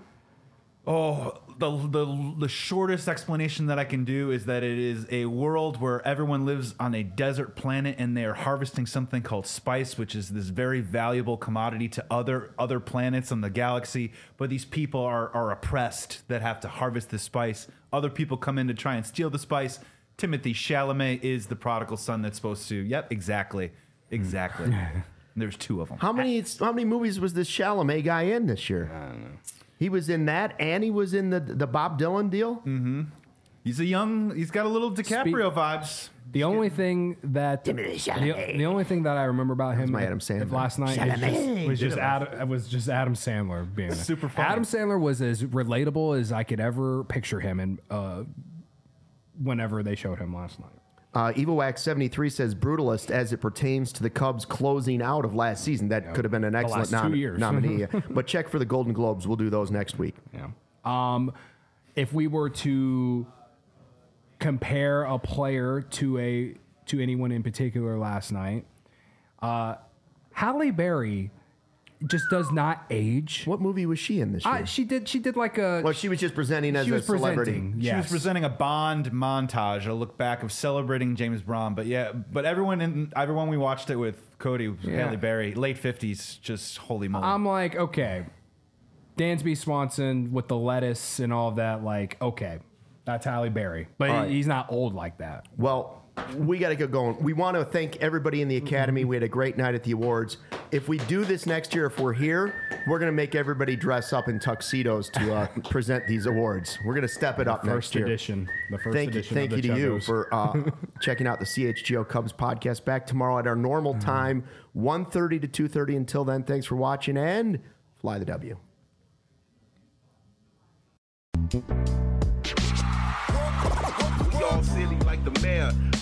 Speaker 7: Oh, the, the the shortest explanation that I can do is that it is a world where everyone lives on a desert planet and they are harvesting something called spice, which is this very valuable commodity to other other planets on the galaxy. But these people are are oppressed that have to harvest this spice. Other people come in to try and steal the spice. Timothy Chalamet is the prodigal son that's supposed to. Yep, exactly, exactly. There's two of them.
Speaker 1: How many how many movies was this Chalamet guy in this year? I don't know. He was in that, and he was in the the Bob Dylan deal. Mm-hmm.
Speaker 7: He's a young. He's got a little DiCaprio
Speaker 2: Spe-
Speaker 7: vibes.
Speaker 2: The only thing that the, the only thing that I remember about him
Speaker 1: my Adam Sandler.
Speaker 2: last night is just, was just Adam was just Adam Sandler being there.
Speaker 7: Super funny.
Speaker 2: Adam Sandler was as relatable as I could ever picture him, and uh, whenever they showed him last night.
Speaker 1: Uh, EvoWax seventy-three says brutalist as it pertains to the Cubs closing out of last season. That could have been an excellent
Speaker 2: last two
Speaker 1: nom-
Speaker 2: years.
Speaker 1: nominee. But check for the Golden Globes. We'll do those next week.
Speaker 2: Yeah. Um, if we were to compare a player to a to anyone in particular last night, uh, Halle Berry just does not age.
Speaker 1: What movie was she in this year?
Speaker 2: Uh, she did. She did like a.
Speaker 1: well, she was just presenting as
Speaker 2: she
Speaker 1: a
Speaker 2: was
Speaker 1: celebrity.
Speaker 2: presenting.
Speaker 7: She
Speaker 2: Yes.
Speaker 7: was presenting a Bond montage, a look back of celebrating James Bond. But yeah, but everyone in everyone we watched it with, Cody, was
Speaker 2: Yeah.
Speaker 7: Halle Berry, late fifties, just holy moly.
Speaker 2: I'm like, okay, Dansby Swanson with the lettuce and all of that. Like, okay, that's Halle Berry, but
Speaker 1: All right.
Speaker 2: he's not old like that.
Speaker 1: Well, we got to get going. We want to thank everybody in the Academy. We had a great night at the awards. If we do this next year, if we're here, we're going to make everybody dress up in tuxedos to uh, present these awards. We're going to step it up
Speaker 2: First
Speaker 1: next year.
Speaker 2: edition. The first
Speaker 1: Thank you,
Speaker 2: edition.
Speaker 1: thank
Speaker 2: of
Speaker 1: you
Speaker 2: the
Speaker 1: to you
Speaker 2: Chuggos.
Speaker 1: for uh, checking out the C H G O Cubs podcast. Back tomorrow at our normal time, one thirty to two thirty. Until then, thanks for watching and fly the W.
Speaker 9: We all silly like the mayor.